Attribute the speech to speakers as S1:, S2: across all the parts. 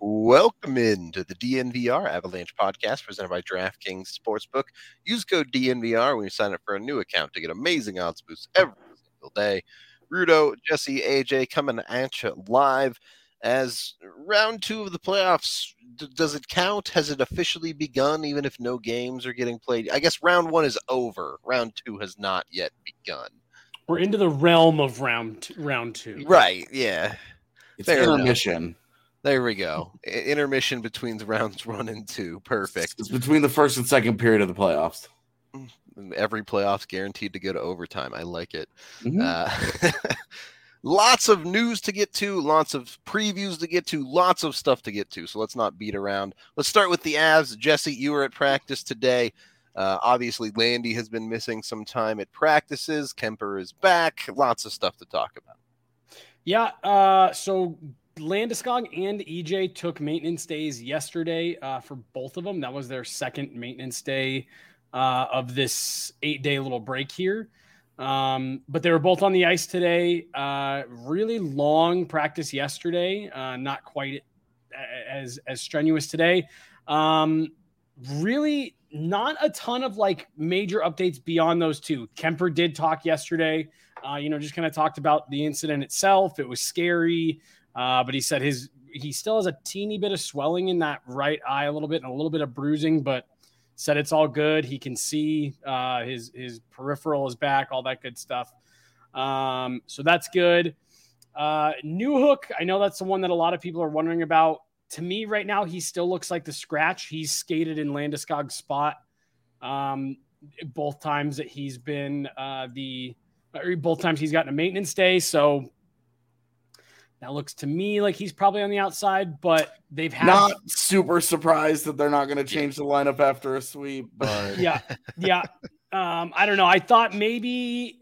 S1: Welcome into the DNVR Avalanche podcast presented by DraftKings Sportsbook. Use code DNVR when you sign up for a new account to get amazing odds boosts every single day. Rudo, Jesse, AJ coming at you live as round 2 of the playoffs. Does it count? Has it officially begun even if no games are getting played? I guess round 1 is over. Round 2 has not yet begun.
S2: We're into the realm of round 2.
S1: Right, yeah.
S3: It's intermission.
S1: There we go. Intermission between the rounds 1 and 2. Perfect.
S3: It's between the first and second period of the playoffs.
S1: Every playoff's guaranteed to go to overtime. I like it.
S3: Mm-hmm.
S1: Lots of news to get to, lots of previews to get to, lots of stuff to get to. So let's not beat around. Let's start with the Avs. Jesse, you were at practice today. Obviously, Landy has been missing some time at practices. Kemper is back. Lots of stuff to talk about.
S2: Yeah, so Landeskog and EJ took maintenance days yesterday for both of them. That was their second maintenance day of this 8-day little break here. But they were both on the ice today. Really long practice yesterday. Not quite as strenuous today. Really not a ton of like major updates beyond those two. Kemper did talk yesterday. Just kind of talked about the incident itself. It was scary. But he said he still has a teeny bit of swelling in that right eye a little bit and a little bit of bruising, but said it's all good. He can see his peripheral is back, all that good stuff. So that's good. Newhook, I know that's the one that a lot of people are wondering about. To me right now, he still looks like the scratch. He's skated in Landeskog's spot both times that he's been both times he's gotten a maintenance day. So that looks to me like he's probably on the outside, but they've had
S3: not super surprised that they're not going to change the lineup after a sweep. But
S2: yeah. I don't know. I thought maybe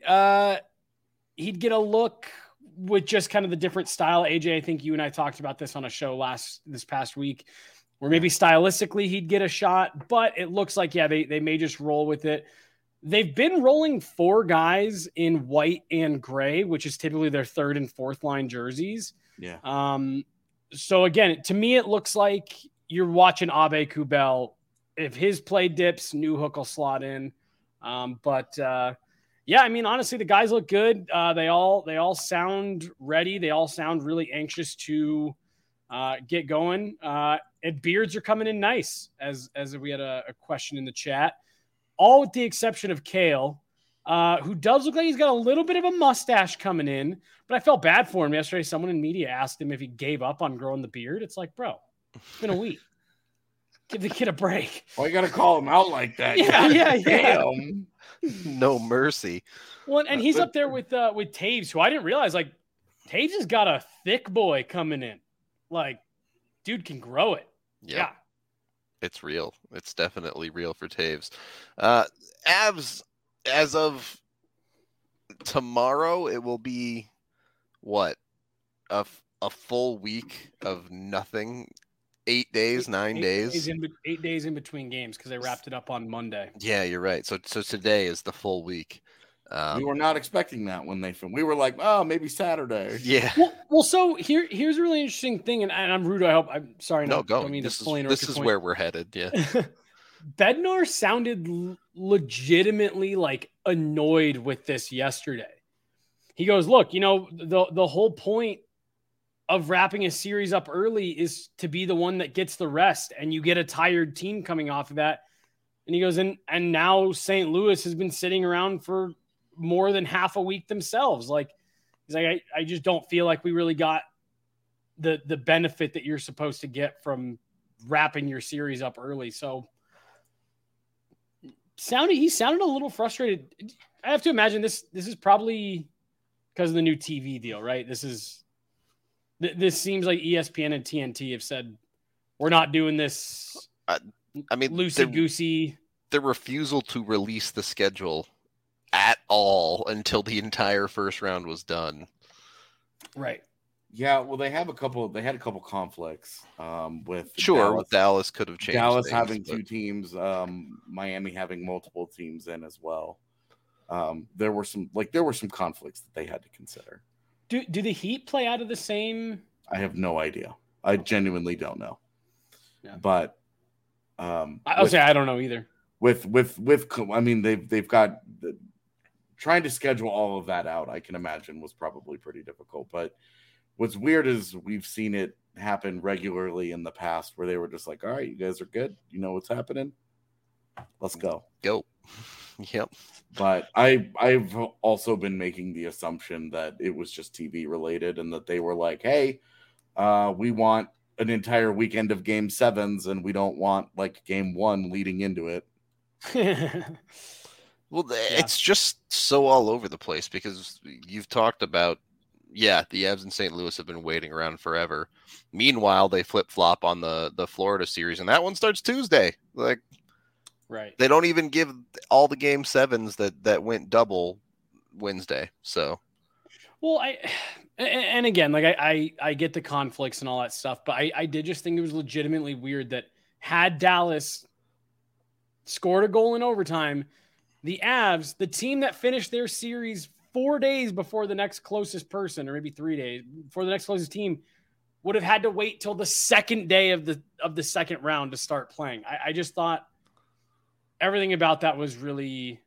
S2: he'd get a look with just kind of the different style. AJ, I think you and I talked about this on a show this past week, where maybe stylistically he'd get a shot, but it looks like they may just roll with it. They've been rolling 4 guys in white and gray, which is typically their third and fourth line jerseys.
S3: Yeah.
S2: So again, to me, it looks like you're watching Abe Kubel. If his play dips, Newhook will slot in. Yeah, I mean, honestly, the guys look good. They all sound ready. They all sound really anxious to get going. And beards are coming in nice, as we had a question in the chat. All with the exception of Kale, who does look like he's got a little bit of a mustache coming in, but I felt bad for him yesterday. Someone in media asked him if he gave up on growing the beard. It's like, bro, it's been a week. Give the kid a break.
S3: Why you got to call him out like that?
S2: Yeah.
S3: Damn.
S1: No mercy.
S2: Well, and he's up there with Taves, who I didn't realize, like, Taves has got a thick boy coming in. Like, dude can grow it.
S1: Yep.
S2: Yeah.
S1: It's real. It's definitely real for Taves. Avs, as of tomorrow, it will be what? A full week of nothing. 8 days, 9 days.
S2: 8 days in between games because they wrapped it up on Monday.
S1: Yeah, you're right. So today is the full week.
S3: We were not expecting that when they filmed. We were like, oh, maybe Saturday.
S1: Yeah.
S2: Well, so here's a really interesting thing, and I'm rude. I hope I'm sorry.
S1: No, go. This is where we're headed. Yeah.
S2: Bednar sounded legitimately like annoyed with this yesterday. He goes, look, the whole point of wrapping a series up early is to be the one that gets the rest, and you get a tired team coming off of that. And he goes, and now St. Louis has been sitting around for more than half a week themselves. Like, he's like, I just don't feel like we really got the benefit that you're supposed to get from wrapping your series up early. So he sounded a little frustrated. I have to imagine this is probably because of the new TV deal, right? This seems like ESPN and TNT have said, we're not doing this.
S1: I mean,
S2: loosey-goosey.
S1: The refusal to release the schedule at all until the entire first round was done.
S2: Right.
S3: Yeah, well, they had a couple conflicts with
S1: Dallas could have changed.
S3: Dallas having 2 teams, Miami having multiple teams in as well. There were some conflicts that they had to consider.
S2: Do the Heat play out of the same?
S3: I have no idea. I genuinely don't know.
S2: Yeah.
S3: But
S2: I'll say I don't know either.
S3: I mean, they've got trying to schedule all of that out. I can imagine was probably pretty difficult. But what's weird is we've seen it happen regularly in the past where they were just like, all right, you guys are good. You know what's happening. Let's go.
S1: Go. Yep.
S3: But I've also been making the assumption that it was just TV related and that they were like, hey, we want an entire weekend of game 7s and we don't want like game 1 leading into it.
S1: Well, it's just so all over the place because you've talked about, the Avs in St. Louis have been waiting around forever. Meanwhile, they flip-flop on the Florida series, and that one starts Tuesday. Like,
S2: right.
S1: They don't even give all the game 7s that went double Wednesday. So,
S2: well, and again, like I get the conflicts and all that stuff, but I did just think it was legitimately weird that had Dallas scored a goal in overtime, the Avs, the team that finished their series 4 days before the next closest person, or maybe 3 days before the next closest team, would have had to wait till the second day of the second round to start playing. I just thought everything about that was really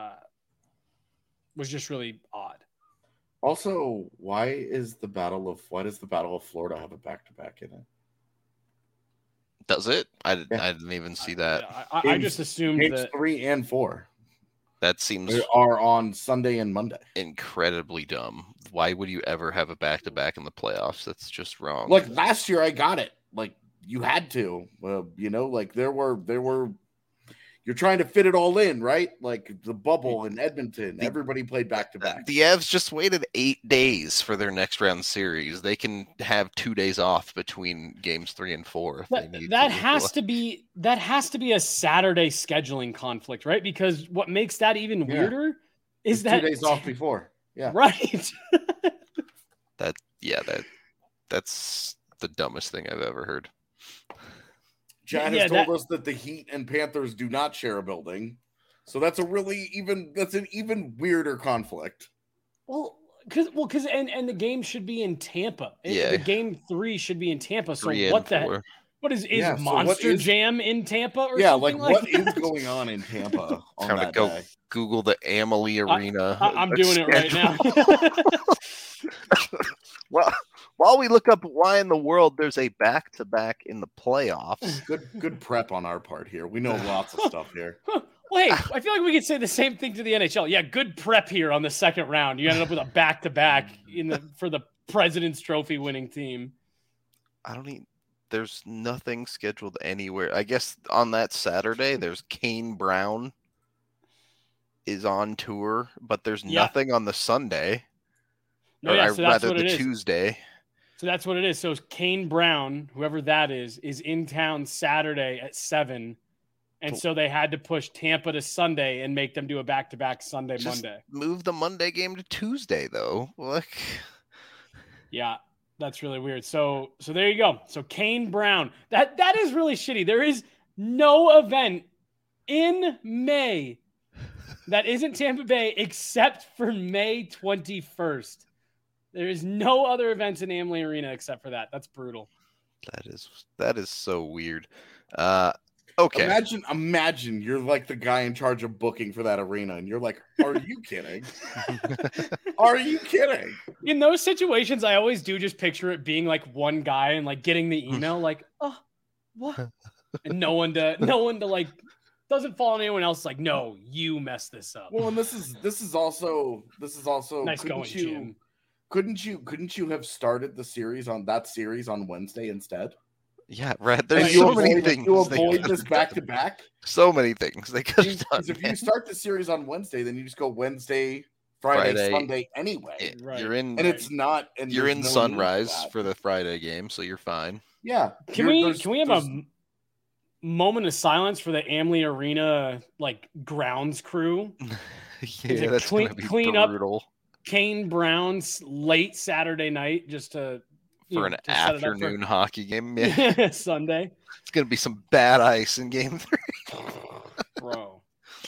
S2: just really odd.
S3: Also, why does the Battle of Florida have a back-to-back in it?
S1: Does it? I didn't even see that.
S2: I just assumed
S3: games
S2: that
S3: 3 and 4.
S1: That seems
S3: They are on Sunday and Monday.
S1: Incredibly dumb. Why would you ever have a back-to-back in the playoffs? That's just wrong.
S3: Like last year, I got it. Like you had to, like there were. You're trying to fit it all in, right? Like the bubble in Edmonton, everybody played back-to-back.
S1: The Avs just waited 8 days for their next round series. They can have 2 days off between games 3 and 4.
S2: That has to be a Saturday scheduling conflict, right? Because what makes that even weirder is that
S3: 2 days off before. Yeah.
S2: Right.
S3: That's
S1: the dumbest thing I've ever heard.
S3: Chad has told us that the Heat and Panthers do not share a building. So that's an even weirder conflict.
S2: Well, because the game should be in Tampa.
S1: Yeah.
S2: The game 3 should be in Tampa. So what is Monster Jam in Tampa or something
S3: what is going on in Tampa on that day?
S1: Google the Amalie Arena.
S2: I'm doing it right now.
S1: Well, while we look up why in the world there's a back-to-back in the playoffs.
S3: Good prep on our part here. We know lots of stuff here.
S2: Well, hey, I feel like we could say the same thing to the NHL. Yeah, good prep here on the second round. You ended up with a back-to-back for the President's Trophy winning team.
S1: There's nothing scheduled anywhere. I guess on that Saturday, there's Kane Brown is on tour, but there's nothing on the Sunday.
S2: No, so that's what it is.
S1: Tuesday.
S2: So that's what it is. So Kane Brown, whoever that is in town Saturday at 7. And so they had to push Tampa to Sunday and make them do a back-to-back Monday.
S1: Move the Monday game to Tuesday, though. Look.
S2: Yeah, that's really weird. So there you go. So Kane Brown. That is really shitty. There is no event in May that isn't Tampa Bay except for May 21st. There is no other events in Amalie Arena except for that. That's brutal.
S1: That is so weird. Okay.
S3: Imagine you're like the guy in charge of booking for that arena, and you're like, "Are you kidding? Are you kidding?"
S2: In those situations, I always do just picture it being like one guy and like getting the email, like, "Oh, what?" And no one to like doesn't fall on anyone else. Like, no, you messed this up.
S3: Well, and this is also
S2: nice going, Jim.
S3: Couldn't you have started the series on Wednesday instead?
S1: Yeah, right. There's so many things.
S3: You avoid this back-to-back?
S1: So many things they could have done.
S3: If you start the series on Wednesday, then you just go Wednesday, Friday, Sunday anyway.
S1: Right. You're in,
S3: and it's not. And
S1: you're in Sunrise for the Friday game, so you're fine.
S3: Yeah.
S2: Can we have a moment of silence for the Amalie Arena grounds crew?
S1: Yeah, that's gonna be brutal.
S2: Up Kane Brown's late Saturday night just to.
S1: For an afternoon hockey game.
S2: Yeah. Sunday.
S1: It's going to be some bad ice in game 3.
S2: Bro.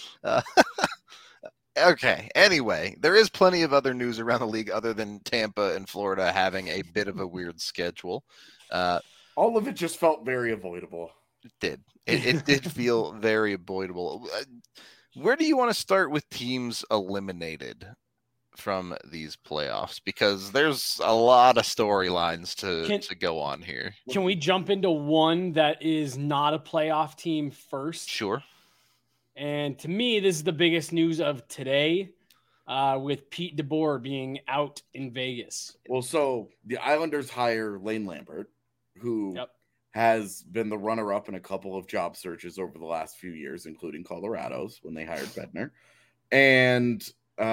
S1: Okay. Anyway, there is plenty of other news around the league other than Tampa and Florida having a bit of a weird schedule.
S3: All of it just felt very avoidable.
S1: It did. It did feel very avoidable. Where do you want to start with teams eliminated from these playoffs? Because there's a lot of storylines to go on here.
S2: Can we jump into one that is not a playoff team first?
S1: Sure.
S2: And to me, this is the biggest news of today, with Pete DeBoer being out in Vegas.
S3: Well, so the Islanders hire Lane Lambert, who has been the runner-up in a couple of job searches over the last few years, including Colorado's when they hired Bednar. And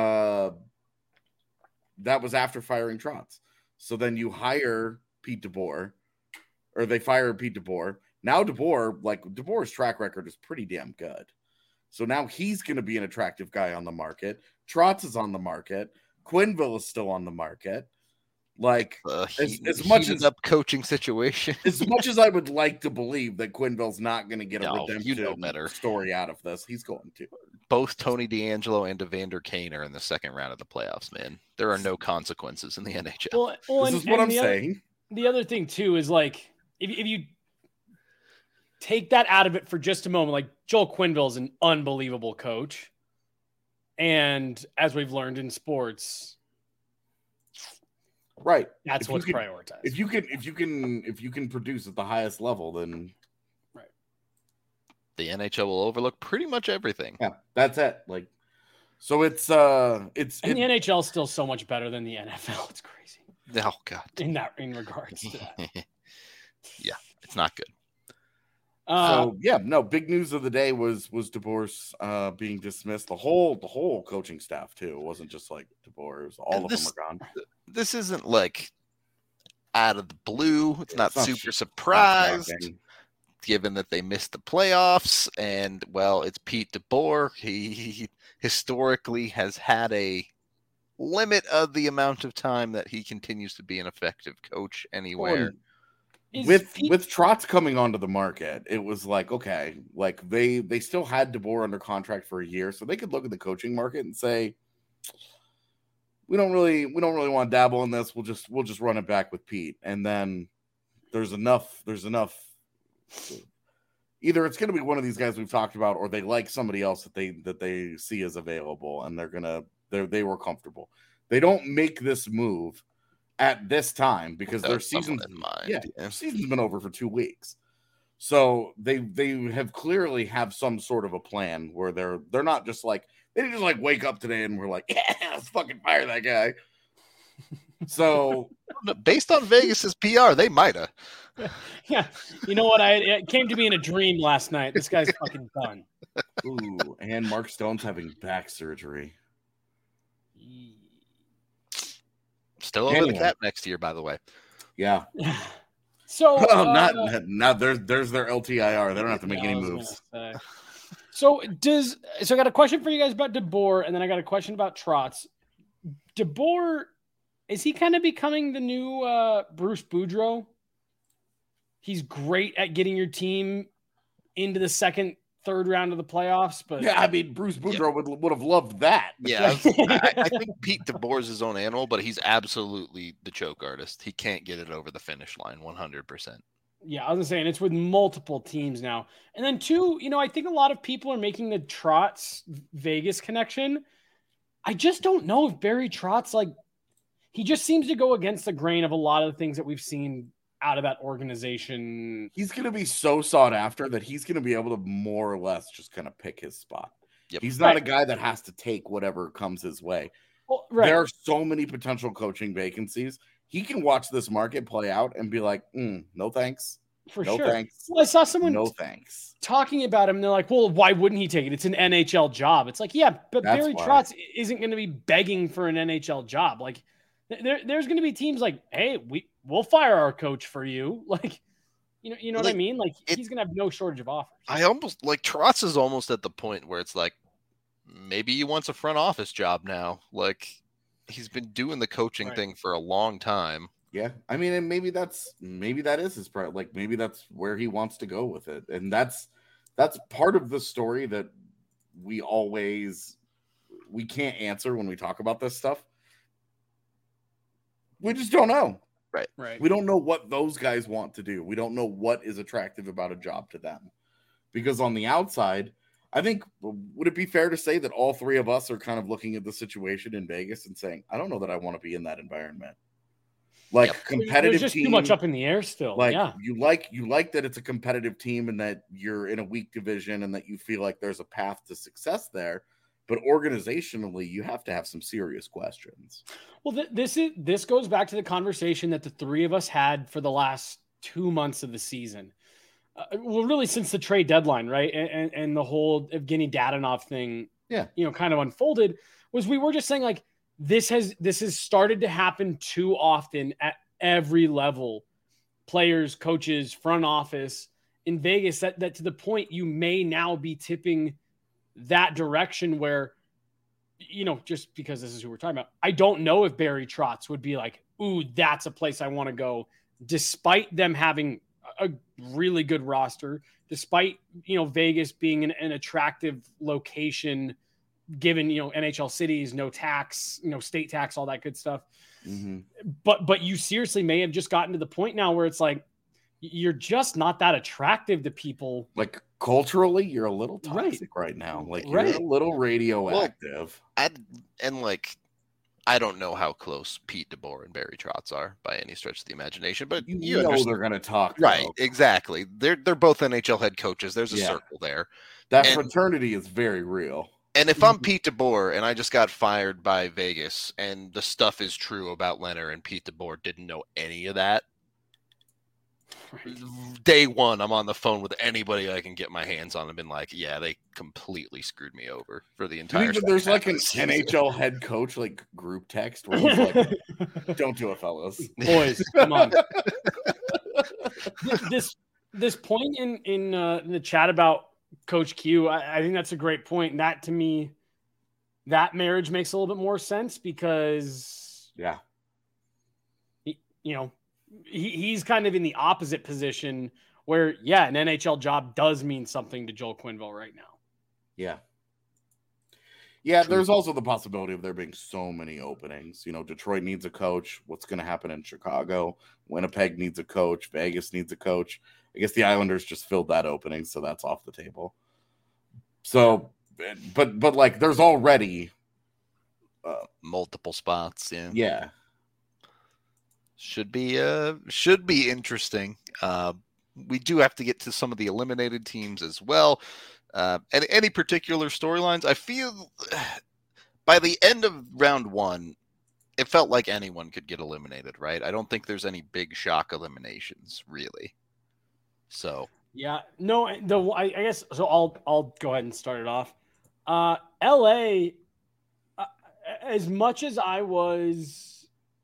S3: that was after firing Trotz. So then you hire Pete DeBoer, or they fire Pete DeBoer. Now DeBoer's track record is pretty damn good. So now he's going to be an attractive guy on the market. Trotz is on the market. Quenneville is still on the market. Like as much as
S1: up coaching situation,
S3: as much as I would like to believe that Quenneville's not going to get a redemption
S1: better
S3: story out of this, he's going to.
S1: Both Tony DeAngelo and Evander Kane are in the second round of the playoffs, man. There are no consequences in the NHL.
S2: Well,
S3: this is what I'm saying.
S2: The other thing too is like if you take that out of it for just a moment, like Joel Quenneville is an unbelievable coach, and as we've learned in sports.
S3: Right.
S2: That's what's prioritized.
S3: If you can produce at the highest level, then
S2: right.
S1: The NHL will overlook pretty much everything.
S3: Yeah, that's it. Like, so it's
S2: the NHL is still so much better than the NFL. It's crazy.
S1: Oh God.
S2: In regards to that.
S1: Yeah, it's not good.
S3: Big news of the day was DeBoer's being dismissed. The whole coaching staff too. It wasn't just like DeBoer's. All of them are gone.
S1: This isn't like out of the blue. It's not super surprised, given that they missed the playoffs. And well, it's Pete DeBoer. He historically has had a limit of the amount of time that he continues to be an effective coach anywhere.
S3: With Trotz coming onto the market, it was like, okay, like they still had DeBoer under contract for a year, so they could look at the coaching market and say, we don't really want to dabble in this. We'll just run it back with Pete. And then there's enough. Either it's going to be one of these guys we've talked about, or they like somebody else that they see as available, and they were comfortable. They don't make this move at this time because their season's been over for 2 weeks. So they have clearly have some sort of a plan where they're not just like, they didn't just like wake up today and we're like, yeah, let's fucking fire that guy. So
S1: based on Vegas's PR, they might have.
S2: Yeah. You know what? It came to me in a dream last night. This guy's fucking done.
S3: Ooh, and Mark Stone's having back surgery.
S1: Still over the cap next year, by the way.
S3: Yeah.
S2: So
S3: not there's their LTIR. They don't have to make any moves.
S2: So I got a question for you guys about DeBoer, and then I got a question about Trotz. DeBoer, is he kind of becoming the new Bruce Boudreau? He's great at getting your team into the second, third round of the playoffs, but
S3: yeah, I mean Bruce Boudreau would have loved that.
S1: Yeah, I think Pete DeBoer is his own animal, but he's absolutely the choke artist. He can't get it over the finish line 100%.
S2: Yeah, I was saying it's with multiple teams now. And then two, I think a lot of people are making the Trotz Vegas connection. I just don't know if Barry Trotz, like, he just seems to go against the grain of a lot of the things that we've seen out of that organization.
S3: He's going to be so sought after that he's going to be able to more or less just kind of pick his spot. Yep. He's not a guy that has to take whatever comes his way.
S2: Well, right.
S3: There are so many potential coaching vacancies. He can watch this market play out and be like, no thanks.
S2: For
S3: no
S2: sure.
S3: Thanks.
S2: Well, I saw someone
S3: thanks.
S2: talking about him. And they're like, well, why wouldn't he take it? It's an NHL job. It's like, yeah, but that's Barry Trotz isn't going to be begging for an NHL job. Like, there's going to be teams like, hey, we'll fire our coach for you. Like, you know what I mean? Like, he's going to have no shortage of offers.
S1: I almost like Trotz is almost at the point where it's like, maybe he wants a front office job now. Like, he's been doing the coaching thing for a long time.
S3: Yeah. I mean, and maybe that is his part. Like, maybe that's where he wants to go with it. And that's part of the story that we can't answer when we talk about this stuff. We just don't know.
S2: Right.
S3: We don't know what those guys want to do. We don't know what is attractive about a job to them. Because on the outside, I think, would it be fair to say that all three of us are kind of looking at the situation in Vegas and saying, I don't know that I want to be in that environment. Like competitive
S2: There's just
S3: team,
S2: too much up in the air still.
S3: Like
S2: yeah.
S3: you like that it's a competitive team and that you're in a weak division and that you feel like there's a path to success there. But organizationally, you have to have some serious questions.
S2: Well, this goes back to the conversation that the three of us had for the last 2 months of the season. Well, really since the trade deadline, right? And the whole Evgeny Dadonov thing, kind of unfolded, was we were just saying like, this has started to happen too often at every level, players, coaches, front office in Vegas, that to the point you may now be tipping that direction where, just because this is who we're talking about, I don't know if Barry Trotz would be like, ooh, that's a place I want to go, despite them having a really good roster, despite, Vegas being an attractive location, given, NHL cities, no tax, state tax, all that good stuff.
S3: Mm-hmm.
S2: But you seriously may have just gotten to the point now where it's like, you're just not that attractive to people.
S3: Like culturally, you're a little toxic right now. Like you're a little radioactive.
S1: I don't know how close Pete DeBoer and Barry Trotz are by any stretch of the imagination, but
S3: you know they're going to talk.
S1: Right, exactly. They're both NHL head coaches. There's a circle there.
S3: That fraternity is very real.
S1: And if I'm Pete DeBoer and I just got fired by Vegas and the stuff is true about Leonard and Pete DeBoer didn't know any of that, day one, I'm on the phone with anybody I can get my hands on and been like, yeah, they completely screwed me over for the entire
S3: season. There's like an NHL head coach like group text where he's like, don't do it, fellas.
S2: Boys, come on. This point in the chat about Coach Q, I think that's a great point. And that, to me, that marriage makes a little bit more sense because, he's kind of in the opposite position where, an NHL job does mean something to Joel Quenneville right now.
S3: Yeah. Yeah, true. There's also the possibility of there being so many openings. Detroit needs a coach. What's going to happen in Chicago? Winnipeg needs a coach. Vegas needs a coach. I guess the Islanders just filled that opening, so that's off the table. So, but like, there's already
S1: multiple spots.
S3: Yeah.
S1: Should be interesting. We do have to get to some of the eliminated teams as well. And any particular storylines? I feel by the end of round one, it felt like anyone could get eliminated, right? I don't think there's any big shock eliminations, really. So
S2: I guess so. I'll go ahead and start it off. LA, as much as I was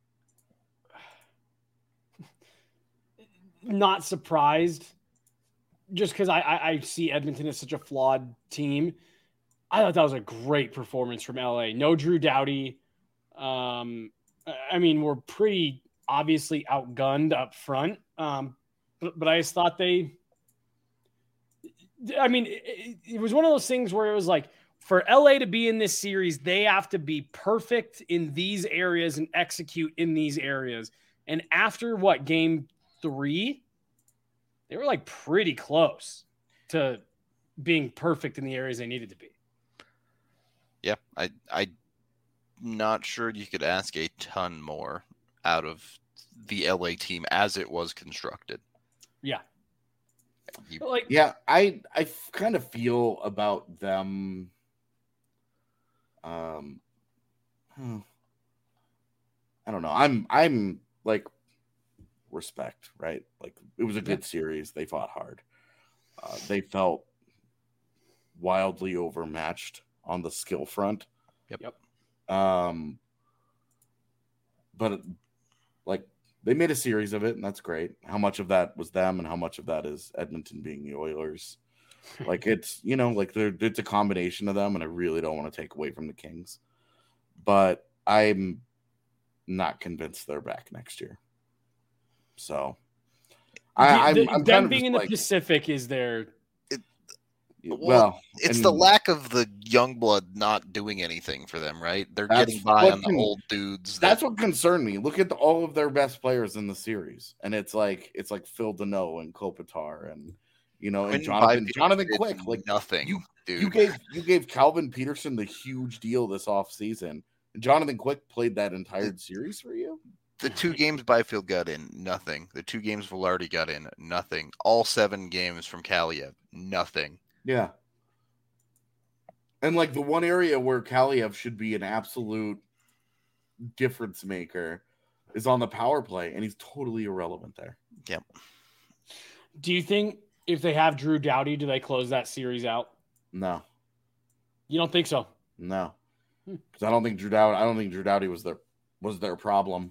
S2: not surprised, just because I see Edmonton as such a flawed team, I thought that was a great performance from LA. No Drew Doughty. We're pretty obviously outgunned up front. But I just thought it was one of those things where it was like, for LA to be in this series, they have to be perfect in these areas and execute in these areas. And after game 3, they were like pretty close to being perfect in the areas they needed to be.
S1: Yeah, I'm not sure you could ask a ton more out of the LA team as it was constructed.
S2: Yeah.
S3: I kind of feel about them. I don't know. I'm like, respect, right? Like, it was a good series. They fought hard. They felt wildly overmatched on the skill front.
S1: Yep.
S3: But like, they made a series of it, and that's great. How much of that was them, and how much of that is Edmonton being the Oilers? Like, it's it's a combination of them, and I really don't want to take away from the Kings, but I'm not convinced they're back next year. So, I'm
S2: them being in the Pacific is their.
S3: Well,
S1: it's the lack of the young blood not doing anything for them, right? They're getting by on the old dudes.
S3: That's what concerned me. Look at all of their best players in the series, and it's like Phil Deneau and Kopitar and and Jonathan Quick. Like
S1: nothing.
S3: You gave Calvin Peterson the huge deal this offseason. And Jonathan Quick played that entire series for you?
S1: The 2 games Byfield got in, nothing. The 2 games Velarde got in, nothing. All 7 games from Kaliev, nothing.
S3: Yeah. And like the one area where Kaliev should be an absolute difference maker is on the power play, and he's totally irrelevant there.
S1: Yep.
S2: Do you think if they have Drew Doughty, do they close that series out?
S3: No.
S2: You don't think so?
S3: No. Because I don't think Drew Doughty was their problem.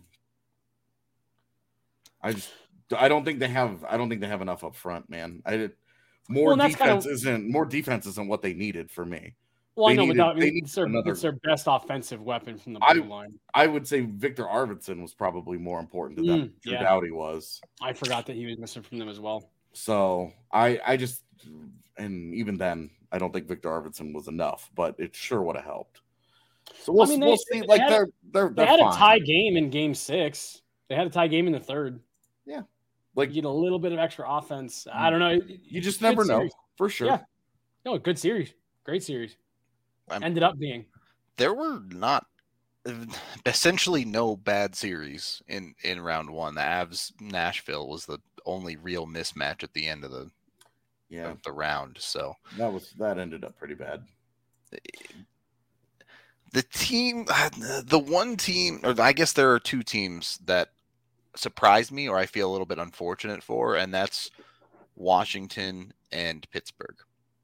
S3: I don't think they have enough up front, man. More defense isn't what they needed for me.
S2: Well, I know, but it's their best offensive weapon from the blue line.
S3: I would say Victor Arvidsson was probably more important to them than Drew Doughty was.
S2: I forgot that he was missing from them as well.
S3: So and even then, I don't think Victor Arvidsson was enough, but it sure would have helped. So we'll see. They had
S2: a tie game in Game 6. They had a tie game in the third.
S3: Yeah,
S2: like you get a little bit of extra offense. I don't know.
S3: You just never know for sure.
S2: Yeah, no, good series, great series. Ended up being.
S1: There were essentially no bad series in round 1. The Avs Nashville was the only real mismatch at the end of the round. So
S3: that ended up pretty bad.
S1: The one team, or I guess there are 2 teams that surprised me or I feel a little bit unfortunate for, and that's Washington and Pittsburgh.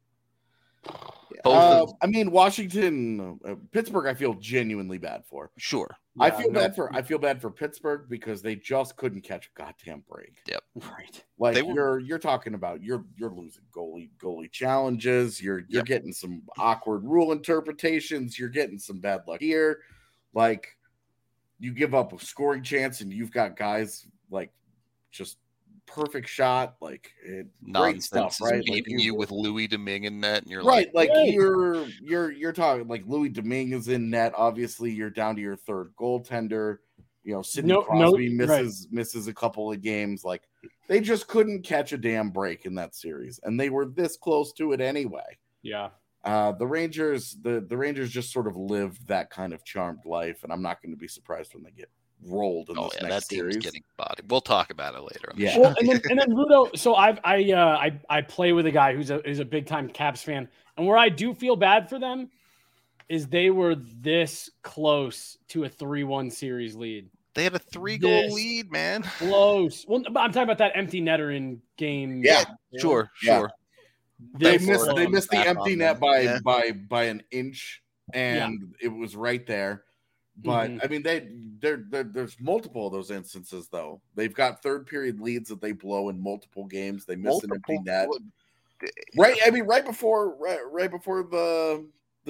S3: Washington, Pittsburgh, I feel genuinely bad for.
S1: Sure.
S3: Yeah, I feel bad for Pittsburgh because they just couldn't catch a goddamn break.
S1: Yep.
S2: Right.
S3: Like you're talking about you're losing goalie challenges, you're getting some awkward rule interpretations, you're getting some bad luck here. Like you give up a scoring chance and you've got guys like just perfect shot, like great stuff, right?
S1: Beating you with Louis Domingue in net, and you're
S3: right, you're talking like Louis Domingue is in net. Obviously, you're down to your 3rd goaltender. Sidney Crosby misses a couple of games. Like they just couldn't catch a damn break in that series, and they were this close to it anyway.
S2: Yeah.
S3: The Rangers just sort of lived that kind of charmed life, and I'm not going to be surprised when they get rolled in this next series.
S1: Getting bodied. We'll talk about it later.
S3: Yeah.
S2: Well, and then Rudo. So I play with a guy who's a big time Caps fan, and where I do feel bad for them is they were this close to a 3-1 series lead.
S1: They had a 3-goal lead, man.
S2: Close. Well, I'm talking about that empty netter in game.
S3: Yeah,
S1: sure.
S3: They missed the empty net by an inch, and it was right there. But I mean, there's multiple of those instances though. They've got 3rd period leads that they blow in multiple games. They miss an empty net. Right. I mean, right before the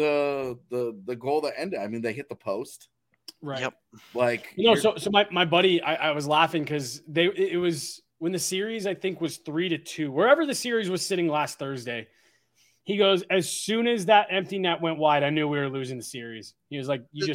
S3: goal that ended. I mean, they hit the post.
S2: Right.
S1: Yep.
S3: Like
S2: so my buddy, I was laughing because it was when the series I think was 3-2, wherever the series was sitting last Thursday. He goes, as soon as that empty net went wide, I knew we were losing the series. He was like, you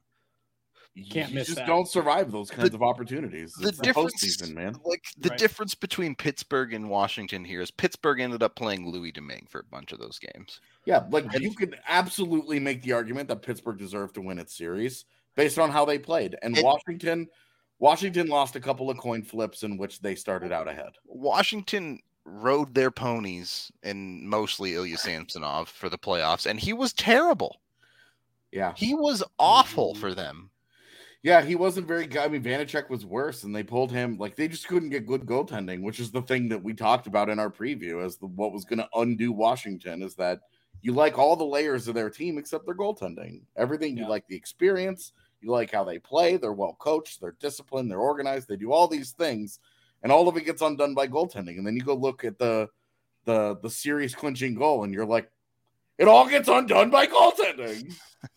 S2: can't miss that.
S3: Don't survive those kinds of opportunities.
S1: The difference, man. Like the difference between Pittsburgh and Washington here is Pittsburgh ended up playing Louis Domingue for a bunch of those games.
S3: Yeah, like you could absolutely make the argument that Pittsburgh deserved to win its series based on how they played. And Washington lost a couple of coin flips in which they started out ahead.
S1: Washington rode their ponies and mostly Ilya Samsonov for the playoffs, and he was terrible.
S3: Yeah.
S1: He was awful for them.
S3: Yeah, he wasn't very good. I mean, Vanacek was worse, and they pulled him. Like, they just couldn't get good goaltending, which is the thing that we talked about in our preview as what was going to undo Washington, is that you like all the layers of their team except their goaltending. Everything, you like the experience, you like how they play, they're well coached, they're disciplined, they're organized, they do all these things, and all of it gets undone by goaltending. And then you go look at the series clinching goal, and you're like, it all gets undone by goaltending.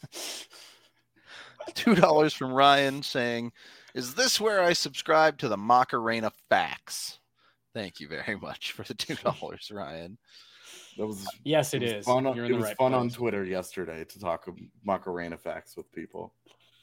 S1: $2 from Ryan saying, is this where I subscribe to the Macarena facts? Thank you very much for the $2, Ryan.
S3: That was
S2: yes, it is.
S3: Fun.
S2: You're
S3: it
S2: in the
S3: was
S2: right
S3: fun
S2: place.
S3: on Twitter yesterday to talk Macarena facts with people.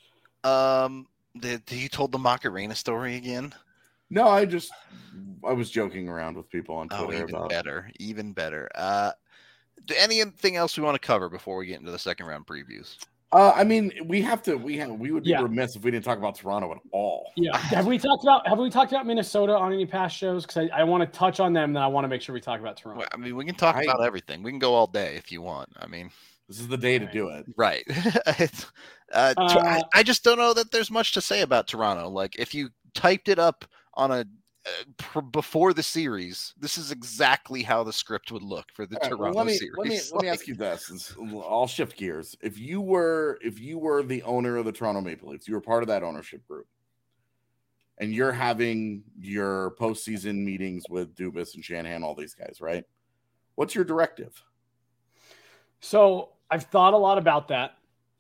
S1: You told the Macarena story again?
S3: No, I was joking around with people on Twitter about.
S1: Even better. Anything else we want to cover before we get into the second round previews?
S3: I mean, we would be remiss if we didn't talk about Toronto at all.
S2: Yeah. Have we talked about Minnesota on any past shows? Because I want to touch on them, then I want to make sure we talk about Toronto.
S1: Well, I mean, we can talk about everything. We can go all day if you want. I mean,
S3: this is the day to do it.
S1: Right. I just don't know that there's much to say about Toronto. Like, if you typed it up on before the series, this is exactly how the script would look for the Toronto series.
S3: Let me ask you this. I'll shift gears. If you were the owner of the Toronto Maple Leafs, you were part of that ownership group, and you're having your postseason meetings with Dubas and Shanahan, all these guys, right? What's your directive?
S2: So I've thought a lot about that.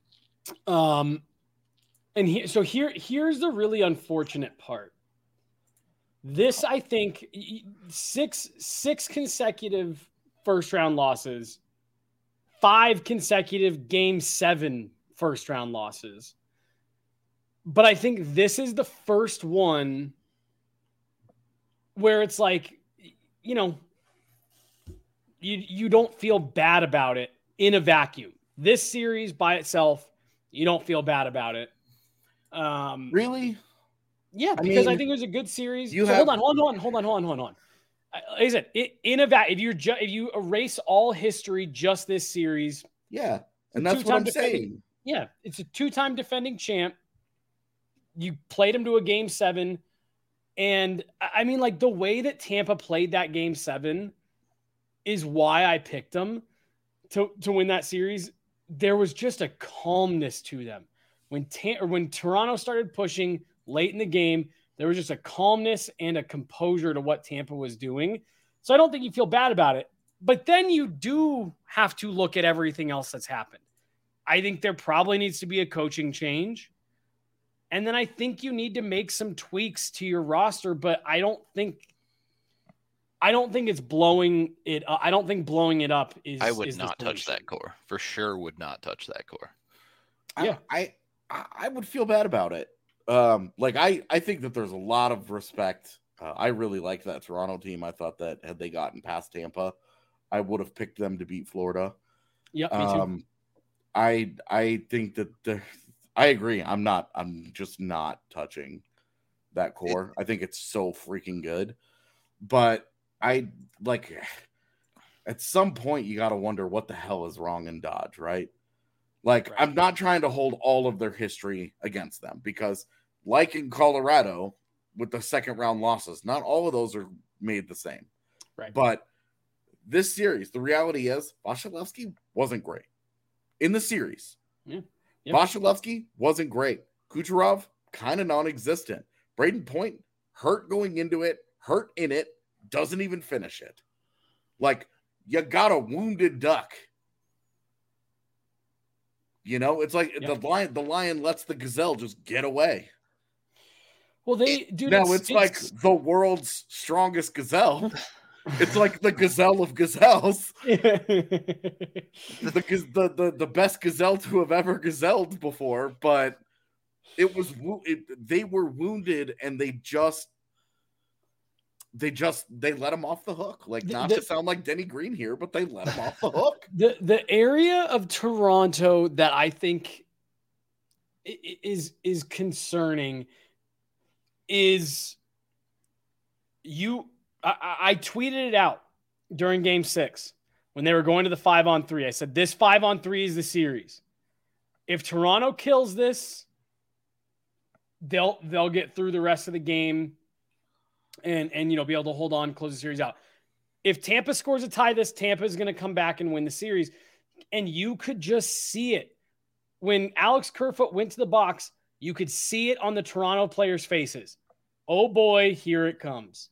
S2: Here's the really unfortunate part. This, I think, six consecutive first-round losses, 5 consecutive Game 7 first-round losses. But I think this is the first one where it's like, you know, you don't feel bad about it in a vacuum. This series by itself, you don't feel bad about it.
S3: Really?
S2: Yeah, because I think it was a good series. Hold on. Like I said, if you erase all history, just this series,
S3: yeah, and that's what I'm saying.
S2: Yeah, it's a 2-time defending champ. You played him to a Game 7, and I mean, like the way that Tampa played that Game 7 is why I picked them to win that series. There was just a calmness to them when Toronto started pushing late in the game. There was just a calmness and a composure to what Tampa was doing. So I don't think you feel bad about it. But then you do have to look at everything else that's happened. I think there probably needs to be a coaching change. And then I think you need to make some tweaks to your roster, but I don't think it's blowing it up. I don't think blowing it up is.
S1: I would not touch that core. For sure would not touch that core.
S2: Yeah.
S3: I would feel bad about it. I think that there's a lot of respect. I really liked that Toronto team. I thought that had they gotten past Tampa, I would have picked them to beat Florida.
S2: Yeah, me too.
S3: I think that I agree. I'm just not touching that core. I think it's so freaking good. But at some point you got to wonder what the hell is wrong in Dodge, right? Right. I'm not trying to hold all of their history against them because, like in Colorado with the second round losses, not all of those are made the same.
S2: Right.
S3: But this series, the reality is Vasilevsky wasn't great in the series.
S2: Yeah. Yep.
S3: Vasilevsky wasn't great. Kucherov, kind of non-existent. Braden Point, hurt going into it, hurt in it, doesn't even finish it. You got a wounded duck. It's like the lion lets the gazelle just get away.
S2: Well,
S3: it's like the world's strongest gazelle. It's like the gazelle of gazelles. the best gazelle to have ever gazelled before, but they were wounded and they let him off the hook. Not to sound like Denny Green here, but they let him off the hook.
S2: The area of Toronto that I think is concerning is I tweeted it out during Game 6 when they were going to the 5-on-3. I said, this 5-on-3 is the series. If Toronto kills this, they'll get through the rest of the game and be able to hold on, close the series out. If Tampa scores a tie, Tampa is going to come back and win the series. And you could just see it. When Alex Kerfoot went to the box, you could see it on the Toronto players' faces. Oh boy, here it comes.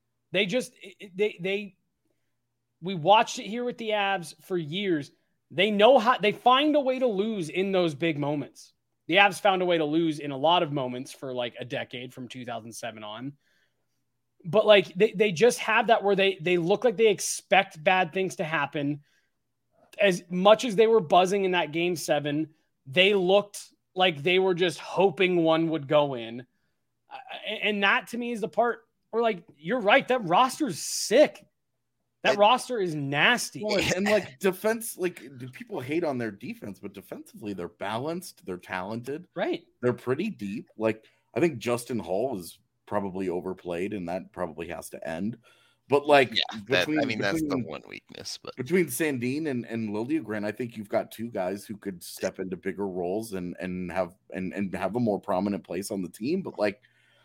S2: We watched it here with the Avs for years. They know how they find a way to lose in those big moments. The Avs found a way to lose in a lot of moments for like a decade from 2007 on. but like they just have that where they look like they expect bad things to happen. As much as they were buzzing in that game 7, they looked like they were just hoping one would go in. And that to me is the part where, like, you're right. That roster's sick. That roster is nasty.
S3: Well, and like defense, like people hate on their defense, but defensively they're balanced, they're talented,
S2: right?
S3: They're pretty deep. Like I think Justin Hall is probably overplayed, and that probably has to end. But like,
S1: that's the one weakness. But
S3: between Sandin and Liljegren, I think you've got two guys who could step into bigger roles and have a more prominent place on the team. But like,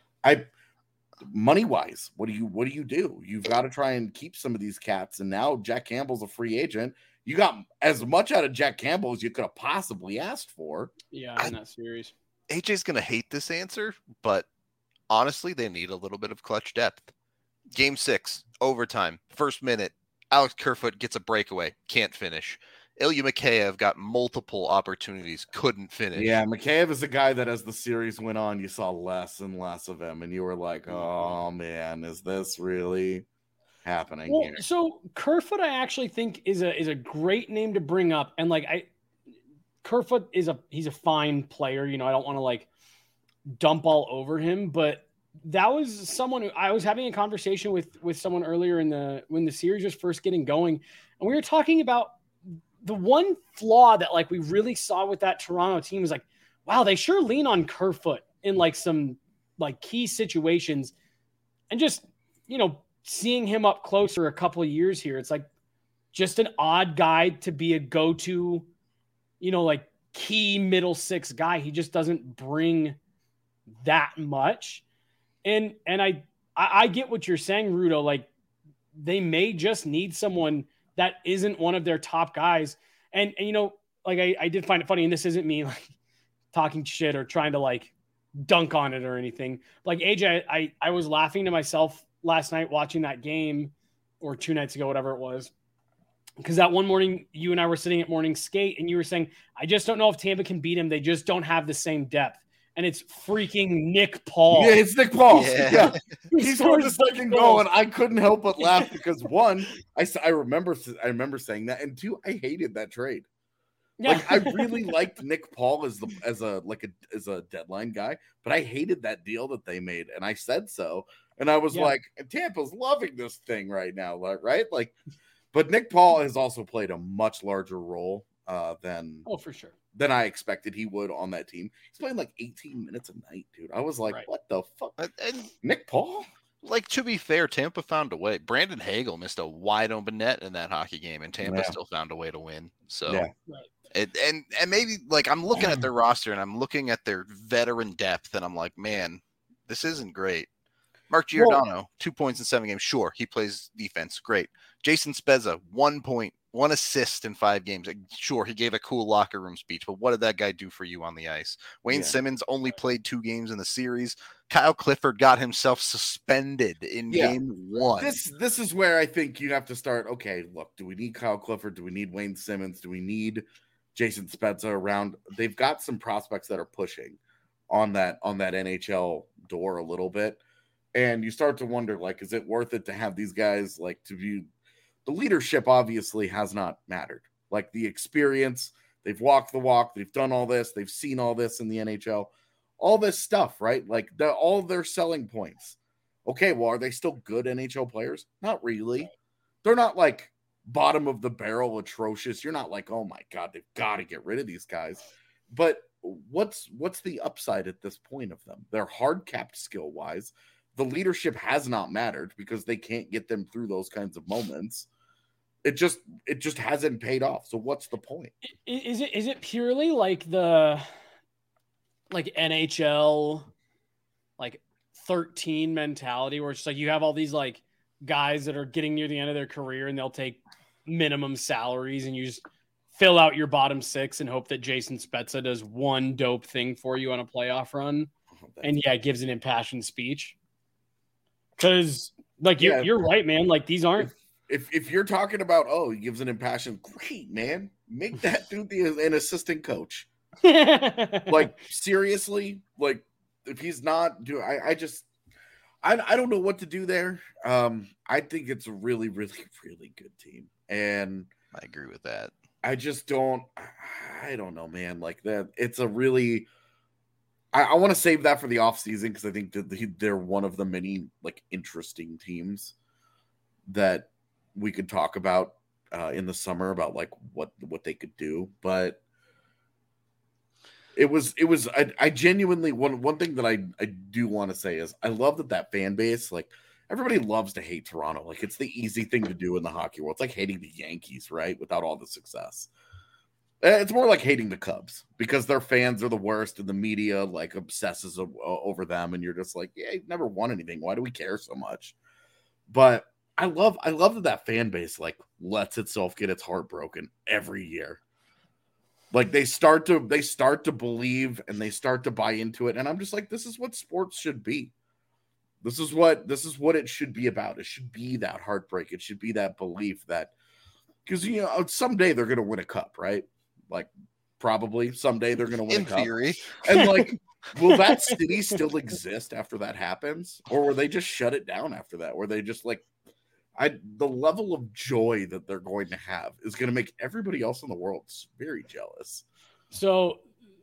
S3: money wise, what do you do? You've got to try and keep some of these cats. And now Jack Campbell's a free agent. You got as much out of Jack Campbell as you could have possibly asked for.
S2: Yeah, in that series.
S1: AJ's gonna hate this answer, but honestly, they need a little bit of clutch depth. Game 6, overtime, first minute, Alex Kerfoot gets a breakaway, can't finish. Ilya Mikheyev got multiple opportunities, couldn't finish.
S3: Yeah, Mikheyev is a guy that as the series went on, you saw less and less of him, and you were like, oh man, is this really happening here?
S2: So Kerfoot, I actually think is a great name to bring up. And like Kerfoot he's a fine player. You know, I don't want to like dump all over him, but that was someone who I was having a conversation with someone earlier when the series was first getting going. And we were talking about the one flaw that like we really saw with that Toronto team was like, wow, they sure lean on Kerfoot in like some like key situations. And just, you know, seeing him up closer a couple of years here, it's like just an odd guy to be a go-to, you know, like key middle six guy. He just doesn't bring that much. And I get what you're saying, Rudo. Like they may just need someone that isn't one of their top guys. And you know, like I did find it funny, and this isn't me like talking shit or trying to like dunk on it or anything. Like AJ, I was laughing to myself last night watching that game, or 2 nights ago, whatever it was. Because that one morning you and I were sitting at morning skate and you were saying, I just don't know if Tampa can beat him. They just don't have the same depth. And it's freaking Nick Paul.
S3: Yeah, it's Nick Paul. Yeah. He scored the second goal, and I couldn't help but laugh because one, I remember saying that, and two, I hated that trade. Yeah. Like I really liked Nick Paul as a deadline guy, but I hated that deal that they made, and I said so. And I was like, Tampa's loving this thing right now, right? Like, but Nick Paul has also played a much larger role
S2: for sure.
S3: Than I expected he would on that team. He's playing like 18 minutes a night, dude. I was like, what the fuck?
S1: And
S3: Nick Paul?
S1: Like, to be fair, Tampa found a way. Brandon Hagel missed a wide open net in that hockey game, and Tampa still found a way to win. So, and maybe, like, I'm looking at their roster, and I'm looking at their veteran depth, and I'm like, man, this isn't great. Mark Giordano, 2 points in 7 games. Sure, he plays defense. Great. Jason Spezza, 1 point, 1 assist in 5 games. Sure, he gave a cool locker room speech, but what did that guy do for you on the ice? Wayne Simmons only played 2 games in the series. Kyle Clifford got himself suspended in game 1.
S3: This is where I think you have to start. Okay, look, do we need Kyle Clifford? Do we need Wayne Simmons? Do we need Jason Spezza around? They've got some prospects that are pushing on that NHL door a little bit. And you start to wonder, like, is it worth it to have these guys, like, to be the leadership obviously has not mattered. Like the experience, they've walked the walk, they've done all this, they've seen all this in the NHL, all this stuff, right? Like all their selling points. Okay, well, are they still good NHL players? Not really. They're not like bottom of the barrel atrocious. You're not like, oh my God, they've got to get rid of these guys. But what's the upside at this point of them? They're hard capped skill wise. The leadership has not mattered because they can't get them through those kinds of moments. It just hasn't paid off. So what's the point?
S2: Is it purely like the NHL like 13 mentality where it's like you have all these like guys that are getting near the end of their career and they'll take minimum salaries and you just fill out your bottom 6 and hope that Jason Spezza does one dope thing for you on a playoff run and gives an impassioned speech? Because, like, you're right, man. Like, these aren't.
S3: If you're talking about, he gives an impassioned, great, man. Make that dude an assistant coach. Like, seriously? Like, if he's not doing, I don't know what to do there. I think it's a really, really, really good team. And
S1: I agree with that.
S3: I just don't, I don't know, man. Like that, it's a really, I want to save that for the offseason because I think that they're one of the many like interesting teams that we could talk about in the summer about like what they could do. But it was I genuinely one thing that I do want to say is I love that fan base. Like everybody loves to hate Toronto. Like it's the easy thing to do in the hockey world. It's like hating the Yankees, right? Without all the success. It's more like hating the Cubs because their fans are the worst and the media like obsesses over them. And you're just like, yeah, you've never won anything. Why do we care so much? But I love that fan base like lets itself get its heart broken every year. Like they start to believe and they start to buy into it. And I'm just like, this is what sports should be. This is what it should be about. It should be that heartbreak. It should be that belief that because someday they're gonna win a cup, right? Like probably someday they're gonna win a cup. In theory. And like, will that city still exist after that happens? Or will they just shut it down after that? Where they just like the level of joy that they're going to have is going to make everybody else in the world very jealous.
S2: So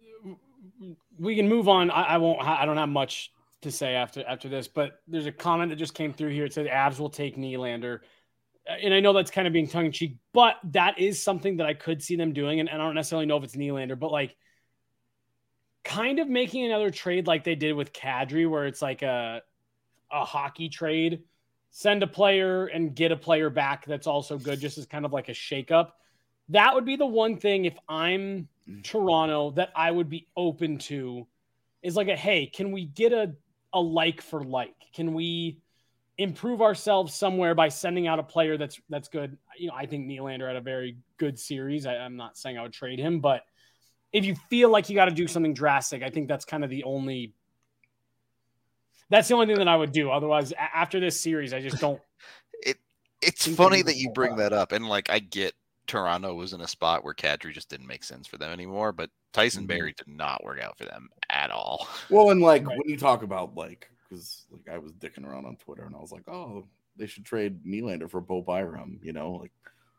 S2: we can move on. I don't have much to say after this, but there's a comment that just came through here. It said Avs will take Nylander. And I know that's kind of being tongue in cheek, but that is something that I could see them doing. And I don't necessarily know if it's Nylander, but like kind of making another trade like they did with Kadri, where it's like a hockey trade. Send a player and get a player back that's also good, just as kind of like a shakeup. That would be the one thing if I'm Toronto that I would be open to is like hey, can we get a like for like? Can we improve ourselves somewhere by sending out a player that's good? I think Nylander had a very good series. I'm not saying I would trade him, but if you feel like you got to do something drastic, I think that's kind of the only thing that I would do. Otherwise, after this series, I just don't.
S1: It's funny that you bring that up. And like, I get Toronto was in a spot where Kadri just didn't make sense for them anymore, but Tyson Barrie did not work out for them at all.
S3: Well, and like when you talk about like, because like I was dicking around on Twitter and I was like, oh, they should trade Nylander for Bo Byram, like.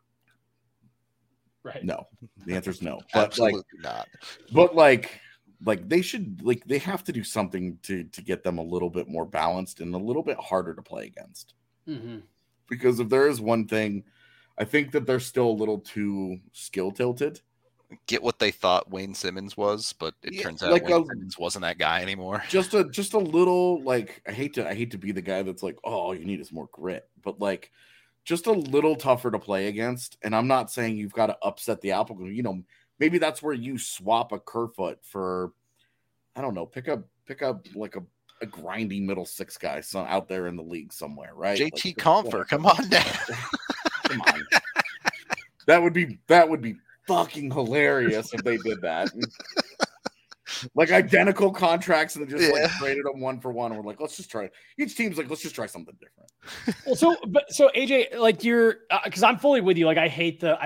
S2: Right.
S3: No, the answer is no. But
S1: absolutely not.
S3: But like they should they have to do something to get them a little bit more balanced and a little bit harder to play against.
S2: Mm-hmm.
S3: Because if there is one thing, I think that they're still a little too skill tilted.
S1: Get what they thought Wayne Simmons was, but it turns out Wayne Simmons wasn't that guy anymore.
S3: Just a little like I hate to be the guy that's like, oh, all you need is more grit, but like just a little tougher to play against. And I'm not saying you've got to upset the apple. Maybe that's where you swap a Kerfoot for, I don't know, pick up like a grinding middle six guy out there in the league somewhere, right?
S1: JT
S3: like,
S1: Compher, come on now.
S3: Come on. That would be fucking hilarious if they did that. Like identical contracts and just like traded them one for one. And we're like, let's just try. Each team's like, let's just try something different.
S2: Well, so AJ, like you're, because I'm fully with you. Like I hate the.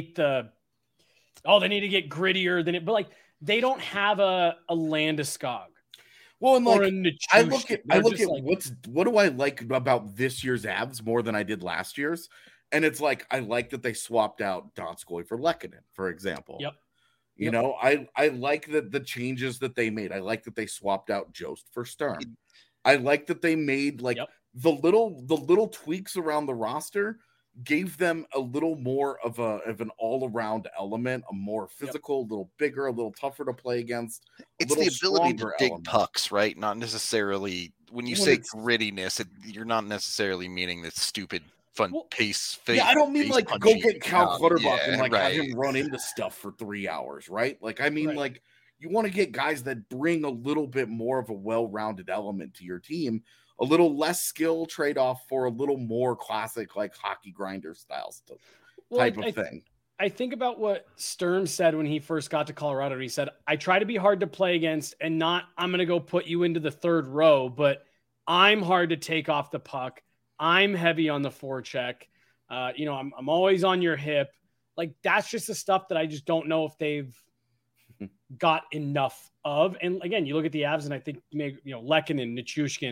S2: Oh, they need to get grittier than it, but like they don't have a Landeskog.
S3: Well, and like I look at like, what do I like about this year's Avs more than I did last year's, and it's like I like that they swapped out Donskoy for Lehkonen, for example.
S2: Yep.
S3: You know, I like the changes that they made. I like that they swapped out Jost for Stern. I like that they made like the little tweaks around the roster gave them a little more of an all-around element, a more physical, a little bigger, a little tougher to play against.
S1: It's the ability to dig pucks, right? Not necessarily when you say grittiness, you're not necessarily meaning this stupid fun pace.
S3: I don't mean like go get Cal Clutterbuck and like have him run into stuff for 3 hours, right? Like I mean, like you want to get guys that bring a little bit more of a well-rounded element to your team. A little less skill trade-off for a little more classic, like hockey grinder styles type of thing.
S2: I think about what Sturm said when he first got to Colorado. He said, I try to be hard to play against and not, I'm going to go put you into the third row, but I'm hard to take off the puck. I'm heavy on the forecheck. I'm always on your hip. Like, that's just the stuff that I just don't know if they've got enough of. And again, you look at the Avs and I think, Lehkonen, Nichushkin,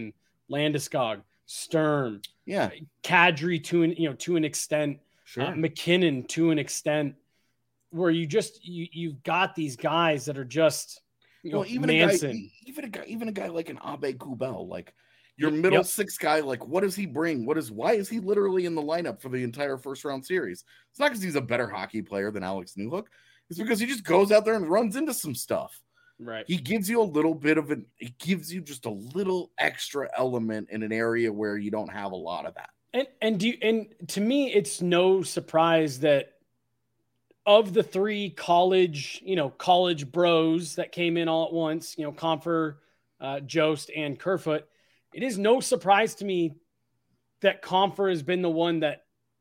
S2: Landeskog, Sturm,
S3: Yeah,
S2: Kadri to an extent,
S3: sure.
S2: McKinnon to an extent, where you've got these guys that are just
S3: even
S2: Manson.
S3: even a guy like an Abe Kubel, like your middle six guy, like what does he bring? Why is he literally in the lineup for the entire first round series? It's not because he's a better hockey player than Alex Newhook. It's because he just goes out there and runs into some stuff.
S2: Right.
S3: He gives you a little bit of it gives you just a little extra element in an area where you don't have a lot of that.
S2: And to me, it's no surprise that of the three college bros that came in all at once, Compher, Jost, and Kerfoot, it is no surprise to me that Compher has been the one that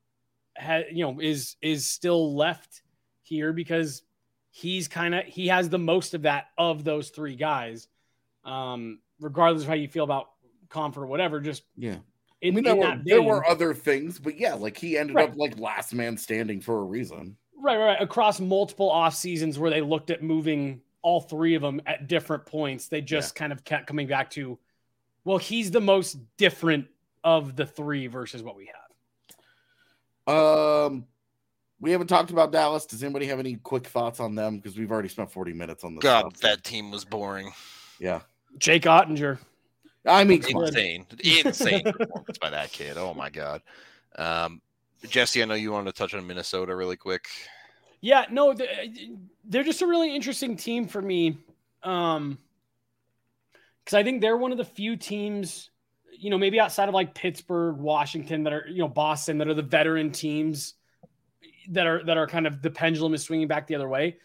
S2: is still left here because he has the most of that of those three guys. Regardless of how you feel about Compher or whatever, just
S3: there were other things, but like he ended up like last man standing for a reason.
S2: Right. Across multiple off seasons where they looked at moving all three of them at different points, they just kind of kept coming back to, well, he's the most different of the three versus what we
S3: have. We haven't talked about Dallas. Does anybody have any quick thoughts on them? Because we've already spent 40 minutes on this.
S1: God, that team was boring.
S3: Yeah.
S2: Jake Ottinger.
S3: I mean,
S1: insane performance by that kid. Oh my God. Jesse, I know you wanted to touch on Minnesota really quick.
S2: Yeah, no, they're just a really interesting team for me. Because I think they're one of the few teams, maybe outside of like Pittsburgh, Washington, that are, Boston, that are the veteran teams that are kind of the pendulum is swinging back the other way.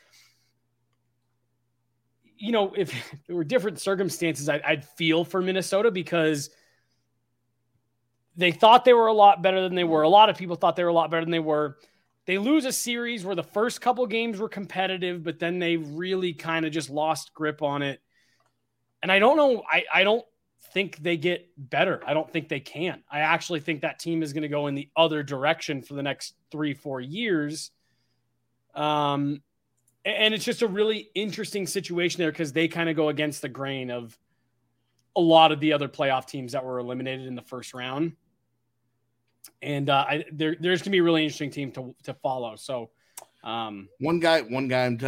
S2: If there were different circumstances, I'd feel for Minnesota because they thought they were a lot better than they were. A lot of people thought they were a lot better than they were. They lose a series where the first couple games were competitive, but then they really kind of just lost grip on it. And I don't know. I don't think they get better. I don't think they can. I actually think that team is going to go in the other direction for the next 3-4 years. And it's just a really interesting situation there because they kind of go against the grain of a lot of the other playoff teams that were eliminated in the first round. And there's going to be a really interesting team to follow. So
S3: one guy I'm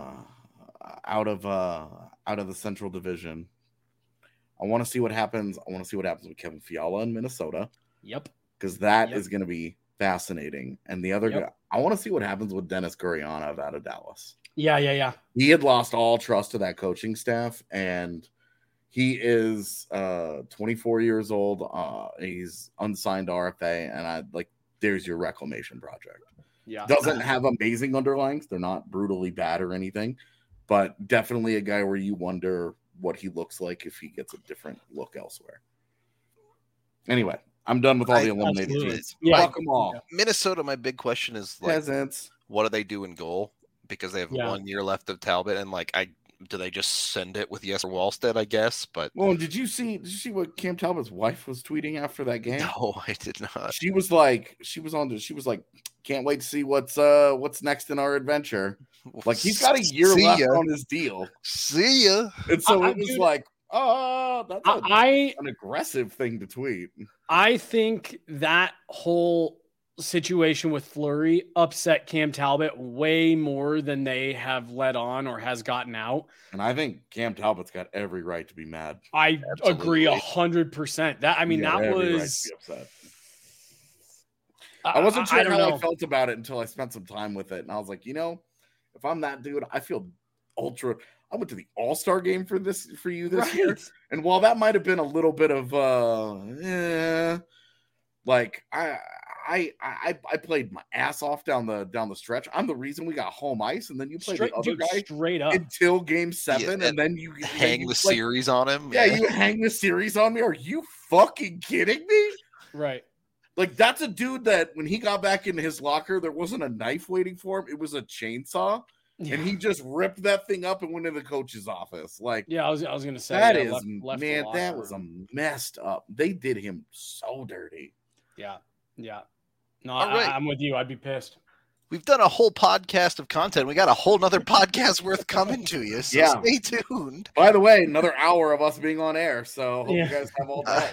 S3: out of the Central Division. I want to see what happens. I want to see what happens with Kevin Fiala in Minnesota.
S2: Yep.
S3: Because that is going to be fascinating. And the other guy, I want to see what happens with Dennis Gurianov out of Dallas.
S2: Yeah. He
S3: had lost all trust to that coaching staff, and he is 24 years old. He's unsigned RFA, and there's your reclamation project.
S2: Yeah.
S3: Doesn't have amazing underlings. They're not brutally bad or anything, but definitely a guy where you wonder what he looks like if he gets a different look elsewhere. Anyway, I'm done with all the eliminated teams. Fuck them all.
S1: Minnesota, my big question is
S3: peasants.
S1: What do they do in goal? Because they have 1 year left of Talbot, and do they just send it with Jesper Wallstedt, I guess? But
S3: did you see what Cam Talbot's wife was tweeting after that game?
S1: No, I did not.
S3: She was like, can't wait to see what's next in our adventure. Like, he's got a year left on his deal.
S1: See ya.
S3: And so it was like, that's an aggressive thing to tweet.
S2: I think that whole situation with Fleury upset Cam Talbot way more than they have let on or has gotten out.
S3: And I think Cam Talbot's got every right to be mad.
S2: I agree 100%. That was
S3: right I wasn't sure how I felt about it until I spent some time with it. And I was like, if I'm that dude, I feel ultra. I went to the All-Star game for you this year. And while that might have been a little bit of I played my ass off down the stretch. I'm the reason we got home ice, and then you played the other guy
S2: straight up
S3: until game 7, and then you
S1: hang the series on him.
S3: Yeah, you hang the series on me. Are you fucking kidding me?
S2: Right.
S3: Like, that's a dude that when he got back into his locker, there wasn't a knife waiting for him. It was a chainsaw. Yeah. And he just ripped that thing up and went into the coach's office. Like,
S2: yeah, I was going to say
S3: that that was a messed up. They did him so dirty.
S2: Yeah. No, right. I'm with you. I'd be pissed.
S1: We've done a whole podcast of content. We got a whole nother podcast worth coming to you. So stay tuned.
S3: By the way, another hour of us being on air. So hope you guys have all day.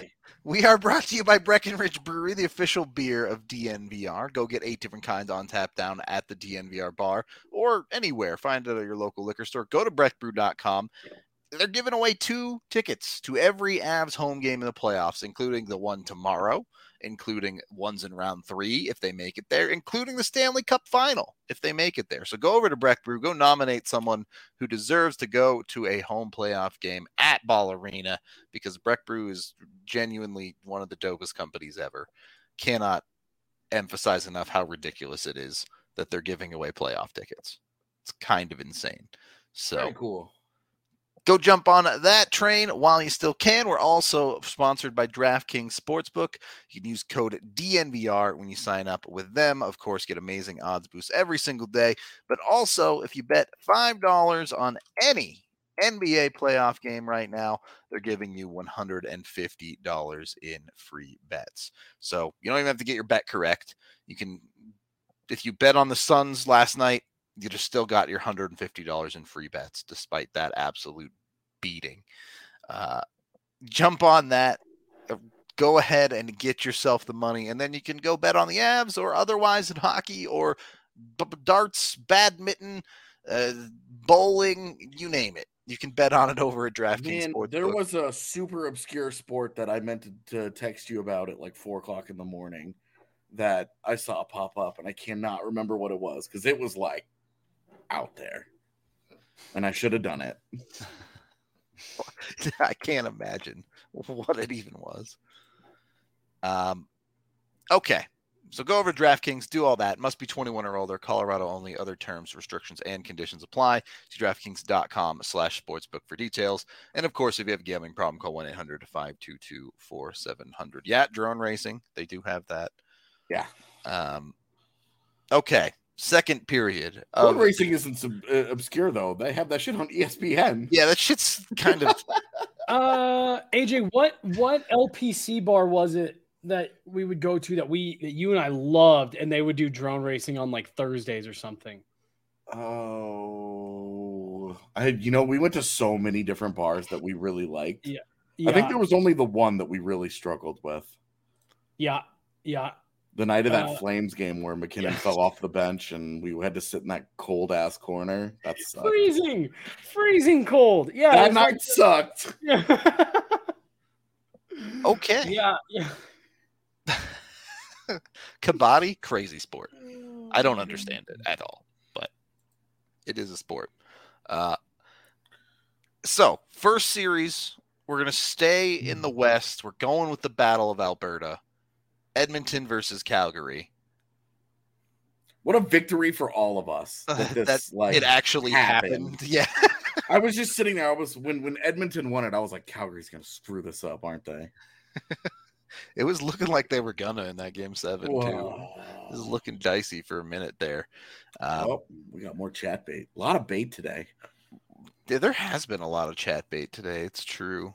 S4: We are brought to you by Breckenridge Brewery, the official beer of DNVR. Go get 8 different kinds on tap down at the DNVR bar or anywhere. Find it at your local liquor store. Go to breckbrew.com. They're giving away 2 tickets to every Avs home game in the playoffs, including the one tomorrow, including ones in round 3 if they make it there, including the Stanley Cup final if they make it there. So go over to Breck Brew, go nominate someone who deserves to go to a home playoff game at Ball Arena, because Breck Brew is genuinely one of the dopest companies ever. Cannot emphasize enough how ridiculous it is that they're giving away playoff tickets. It's kind of insane. So
S3: Very cool.
S4: Go jump on that train while you still can. We're also sponsored by DraftKings Sportsbook. You can use code DNVR when you sign up with them. Of course, get amazing odds boosts every single day. But also, if you bet $5 on any NBA playoff game right now, they're giving you $150 in free bets. So you don't even have to get your bet correct. You can, if you bet on the Suns last night, you just still got your $150 in free bets, despite that absolute beating. Jump on that. Go ahead and get yourself the money, and then you can go bet on the Avs or otherwise in hockey or darts, badminton, bowling, you name it. You can bet on it over at DraftKings Sportsbook.
S3: There was a super obscure sport that I meant to text you about at like 4:00 in the morning that I saw pop up, and I cannot remember what it was because it was like out there, and I should have done it.
S4: I can't imagine what it even was. Okay, so go over to DraftKings, do all that. Must be 21 or older. Colorado only. Other terms, restrictions, and conditions apply. See DraftKings.com/sportsbook for details. And of course, if you have a gambling problem, call 1-800-522-4700. Yeah, drone racing. They do have that.
S3: Yeah.
S4: Okay. Second period.
S3: Drone racing isn't obscure though. They have that shit on ESPN.
S4: Yeah, that shit's kind of.
S2: AJ, what LPC bar was it that we would go to that you and I loved, and they would do drone racing on like Thursdays or something?
S3: Oh, we went to so many different bars that we really liked.
S2: Yeah.
S3: I think there was only the one that we really struggled with.
S2: Yeah.
S3: The night of that Flames game where McKinnon fell off the bench and we had to sit in that cold ass corner. That's
S2: freezing cold. Yeah,
S3: that night sucked.
S2: Yeah.
S4: Okay.
S2: Yeah.
S4: Kabaddi, crazy sport. I don't understand it at all, but it is a sport. So first series, we're gonna stay in the West. We're going with the Battle of Alberta. Edmonton versus Calgary.
S3: What a victory for all of us that
S4: it actually happened. Yeah.
S3: I was just sitting there. When Edmonton won it, I was like, Calgary's gonna screw this up, aren't they?
S4: It was looking like they were gonna in that game 7
S3: Whoa.
S4: too. It was looking dicey for a minute there.
S3: We got more chat bait. A lot of bait today.
S4: Yeah, there has been a lot of chat bait today. It's true.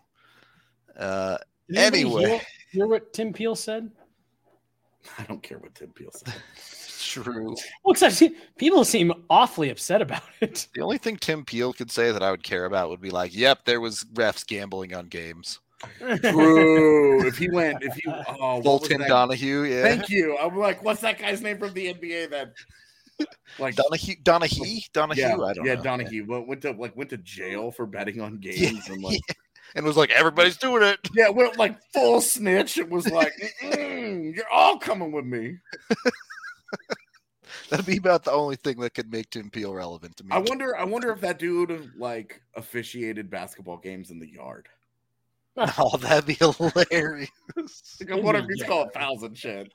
S4: Anyway,
S2: hear what Tim Peel said?
S3: I don't care what Tim Peel said.
S4: True.
S2: Well, because people seem awfully upset about it.
S4: The only thing Tim Peel could say that I would care about would be like, "Yep, there was refs gambling on games."
S3: True.
S4: Fulton Donahue. Yeah.
S3: Thank you. I'm like, what's that guy's name from the NBA that? Like
S4: Donahue.
S3: Yeah,
S4: I don't know.
S3: Donahue went to jail for betting on games
S4: and was like, everybody's doing it.
S3: Yeah, went like full snitch. It was like, you're all coming with me.
S4: That'd be about the only thing that could make Tim Peel relevant to me.
S3: I wonder if that dude like officiated basketball games in the yard.
S4: Oh, that'd be hilarious.
S3: I wonder if he's called fouls and shit.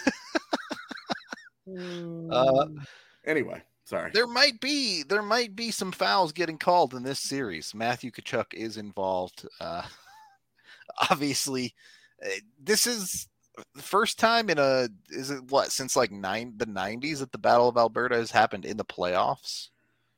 S3: Anyway. Sorry.
S4: There might be some fouls getting called in this series. Matthew Tkachuk is involved. Obviously, this is the first time since like the 90s that the Battle of Alberta has happened in the playoffs.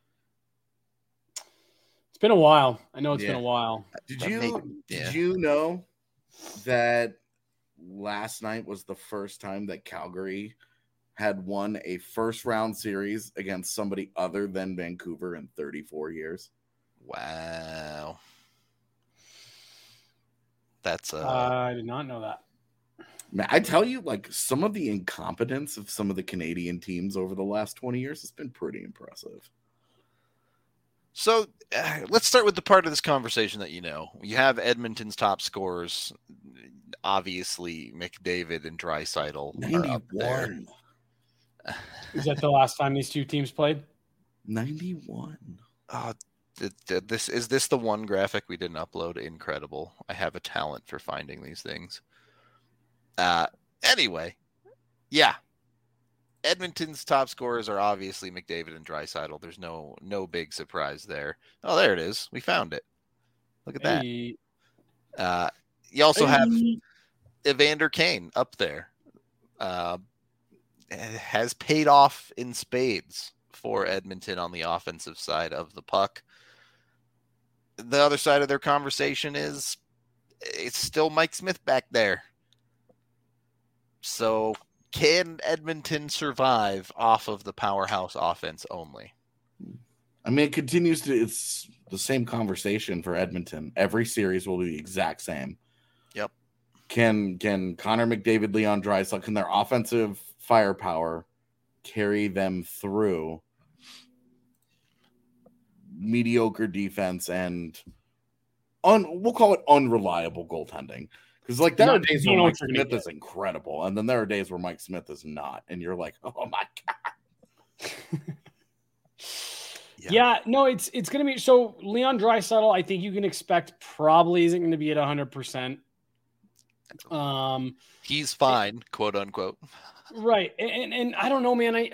S2: It's been a while. I know it's been a while.
S3: Did you know that last night was the first time that Calgary had won a first round series against somebody other than Vancouver in 34 years?
S4: Wow.
S1: That's
S2: I did not know that.
S3: Man, I tell you, like, some of the incompetence of some of the Canadian teams over the last 20 years has been pretty impressive.
S1: So let's start with the part of this conversation that you have Edmonton's top scorers, obviously McDavid and Draisaitl are up there.
S3: 91.
S2: Is that the last time these two teams played?
S3: 91.
S1: Is this the one graphic we didn't upload? Incredible. I have a talent for finding these things. Anyway, yeah. Edmonton's top scorers are obviously McDavid and Draisaitl. There's no big surprise there. Oh, there it is. We found it. Look at that. You also have Evander Kane up there. Has paid off in spades for Edmonton on the offensive side of the puck. The other side of their conversation is it's still Mike Smith back there. So can Edmonton survive off of the powerhouse offense only?
S3: I mean, it's the same conversation for Edmonton. Every series will be the exact same.
S1: Yep.
S3: Can Connor McDavid, Leon Draisaitl, can their offensive firepower carry them through mediocre defense and we'll call it unreliable goaltending? Because like there are days where Mike Smith is incredible, and then there are days where Mike Smith is not, and you're like, oh my god.
S2: Yeah, no, it's going to be so. Leon Draisaitl, I think you can expect probably isn't going to be at 100%.
S1: He's fine, quote unquote.
S2: Right, and I don't know, man.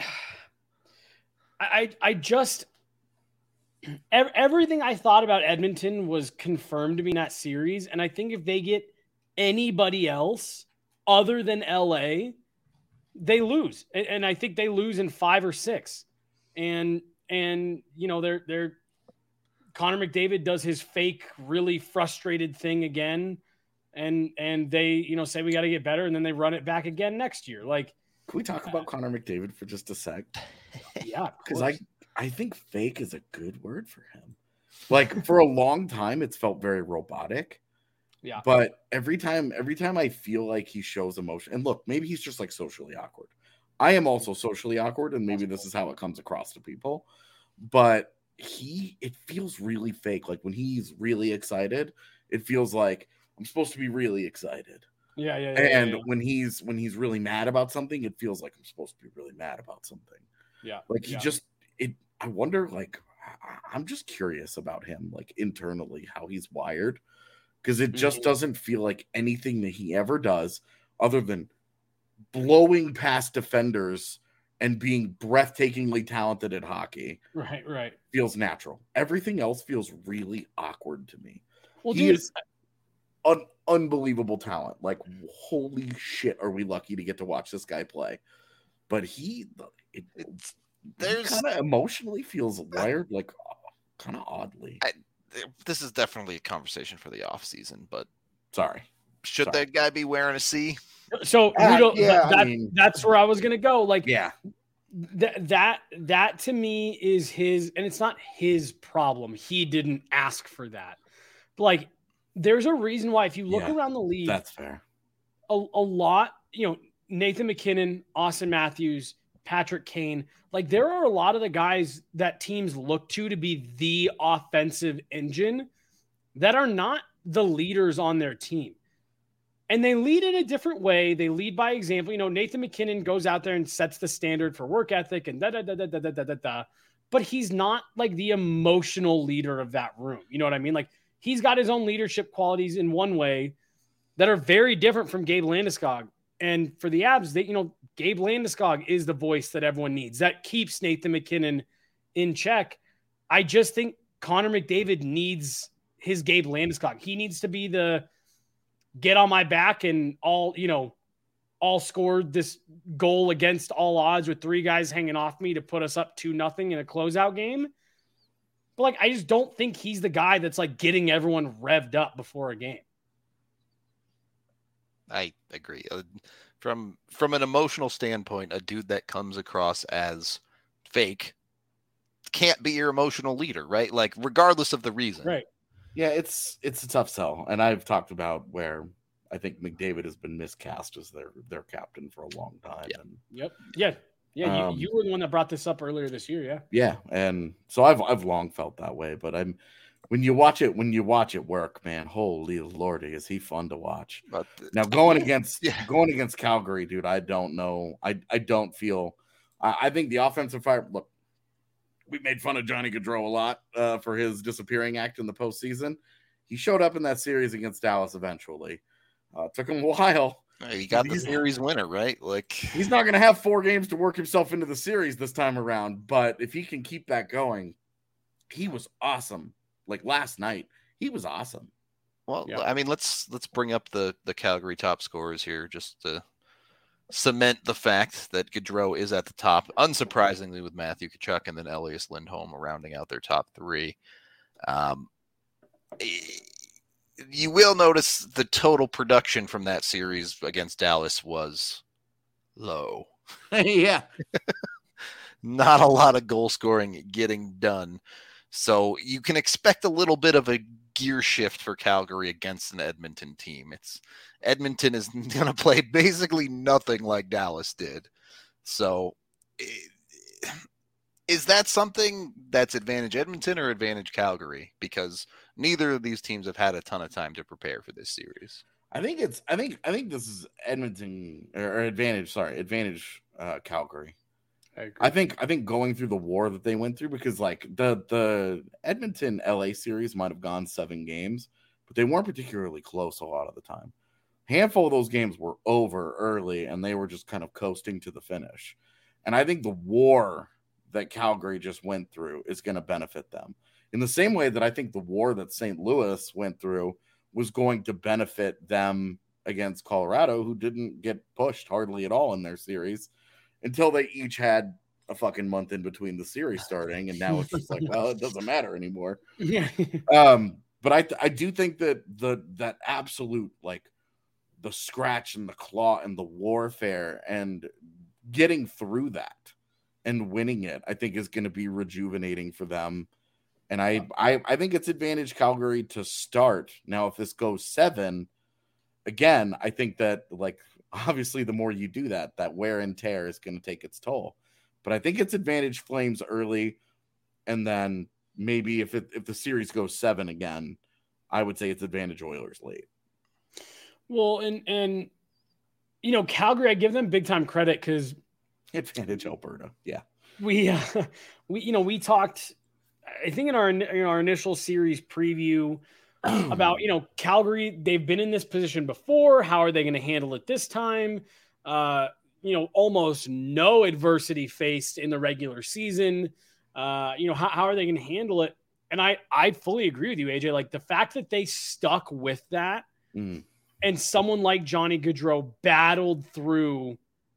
S2: I just everything I thought about Edmonton was confirmed to me in that series, and I think if they get anybody else other than LA, they lose, and I think they lose in 5 or 6, and they're Connor McDavid does his fake, really frustrated thing again, and they say we got to get better, and then they run it back again next year. Like,
S3: can we talk about Connor McDavid for just a sec?
S2: Yeah,
S3: because I think fake is a good word for him. Like for a long time, it's felt very robotic.
S2: Yeah.
S3: But every time I feel like he shows emotion, and look, maybe he's just like socially awkward. I am also socially awkward, and maybe this is how it comes across to people. But it feels really fake. Like when he's really excited, it feels like I'm supposed to be really excited.
S2: Yeah.
S3: And when he's really mad about something, it feels like I'm supposed to be really mad about something.
S2: Yeah.
S3: Like I wonder, like, I'm just curious about him, like internally, how he's wired. Because it just doesn't feel like anything that he ever does other than blowing past defenders and being breathtakingly talented at hockey.
S2: Right.
S3: Feels natural. Everything else feels really awkward to me.
S2: Well,
S3: he is unbelievable talent. Like, holy shit, are we lucky to get to watch this guy play? But he kind of emotionally feels wired, like kind of oddly.
S1: This is definitely a conversation for the off season, but should
S3: Sorry.
S1: that guy be wearing a C?
S2: So that's where I was gonna go. Like,
S3: yeah,
S2: that to me is his, and it's not his problem. He didn't ask for that. But like, there's a reason why if you look around the league,
S3: that's fair.
S2: A lot, Nathan McKinnon, Austin Matthews, Patrick Kane, like there are a lot of the guys that teams look to be the offensive engine that are not the leaders on their team. And they lead in a different way. They lead by example. Nathan McKinnon goes out there and sets the standard for work ethic and but he's not like the emotional leader of that room. You know what I mean? Like he's got his own leadership qualities in one way that are very different from Gabe Landeskog. And for the Avs, Gabe Landeskog is the voice that everyone needs. That keeps Nathan McKinnon in check. I just think Connor McDavid needs his Gabe Landeskog. He needs to be the get on my back and all scored this goal against all odds with 3 guys hanging off me to put us up 2-0 in a closeout game. But like, I just don't think he's the guy that's like getting everyone revved up before a game.
S1: I agree. From an emotional standpoint, a dude that comes across as fake can't be your emotional leader, right? Like regardless of the reason.
S2: Right.
S3: Yeah, it's a tough sell, and I've talked about where I think McDavid has been miscast as their captain for a long time.
S1: Yeah.
S3: And,
S2: Yeah. You were the one that brought this up earlier this year. Yeah.
S3: Yeah, and so I've long felt that way, but when you watch it work, man, holy lordy, is he fun to watch.
S1: But
S3: Now going against Calgary, dude, I don't know. I don't feel. I think the offensive fire. Look, we made fun of Johnny Gaudreau a lot for his disappearing act in the postseason. He showed up in that series against Dallas eventually. Took him a while.
S1: He got the series winner, right? Like,
S3: he's not going to have 4 games to work himself into the series this time around, but if he can keep that going, he was awesome. Like last night, he was awesome.
S1: Well, yeah. I mean, let's bring up the Calgary top scorers here just to cement the fact that Gaudreau is at the top, unsurprisingly, with Matthew Tkachuk and then Elias Lindholm rounding out their top 3. You will notice the total production from that series against Dallas was low.
S3: Yeah.
S1: Not a lot of goal scoring getting done. So you can expect a little bit of a gear shift for Calgary against an Edmonton team. Edmonton is going to play basically nothing like Dallas did. So is that something that's advantage Edmonton or advantage Calgary? Because neither of these teams have had a ton of time to prepare for this series.
S3: I think this is Edmonton or advantage Calgary. I think going through the war that they went through, because like the Edmonton LA series might have gone 7 games, but they weren't particularly close a lot of the time. Handful of those games were over early and they were just kind of coasting to the finish. And I think the war that Calgary just went through is going to benefit them in the same way that I think the war that St. Louis went through was going to benefit them against Colorado, who didn't get pushed hardly at all in their series until they each had a fucking month in between the series starting. And now it's just like, well, it doesn't matter anymore.
S2: Yeah.
S3: But I do think that that absolute, like, the scratch and the claw and the warfare and getting through that and winning it, I think is going to be rejuvenating for them. And I think it's advantage Calgary to start. Now, if this goes 7, again, I think that, like, obviously the more you do that wear and tear is going to take its toll. But I think it's advantage Flames early. And then maybe if the series goes 7 again, I would say it's advantage Oilers late.
S2: Well, and you know, Calgary, I give them big time credit because
S3: advantage Alberta. Yeah.
S2: We talked, I think in our initial series preview about, Calgary, they've been in this position before. How are they going to handle it this time? Almost no adversity faced in the regular season. How are they going to handle it? And I fully agree with you, AJ. Like, the fact that they stuck with that and someone like Johnny Gaudreau battled through,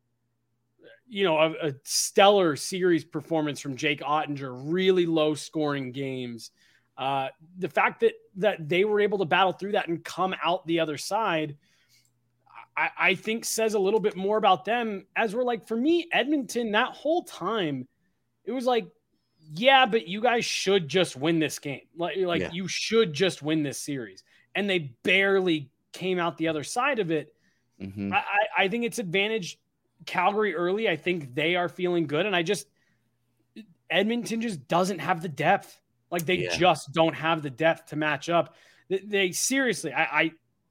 S2: a stellar series performance from Jake Ottinger, really low scoring games. The fact that they were able to battle through that and come out the other side, I think says a little bit more about them. As we're like, for me, Edmonton, that whole time, it was like, yeah, but you guys should just win this game. You should just win this series. And they barely came out the other side of it. Mm-hmm. I think it's advantage Calgary early. I think they are feeling good. And Edmonton just doesn't have the depth. Like, they just don't have the depth to match up. They seriously, I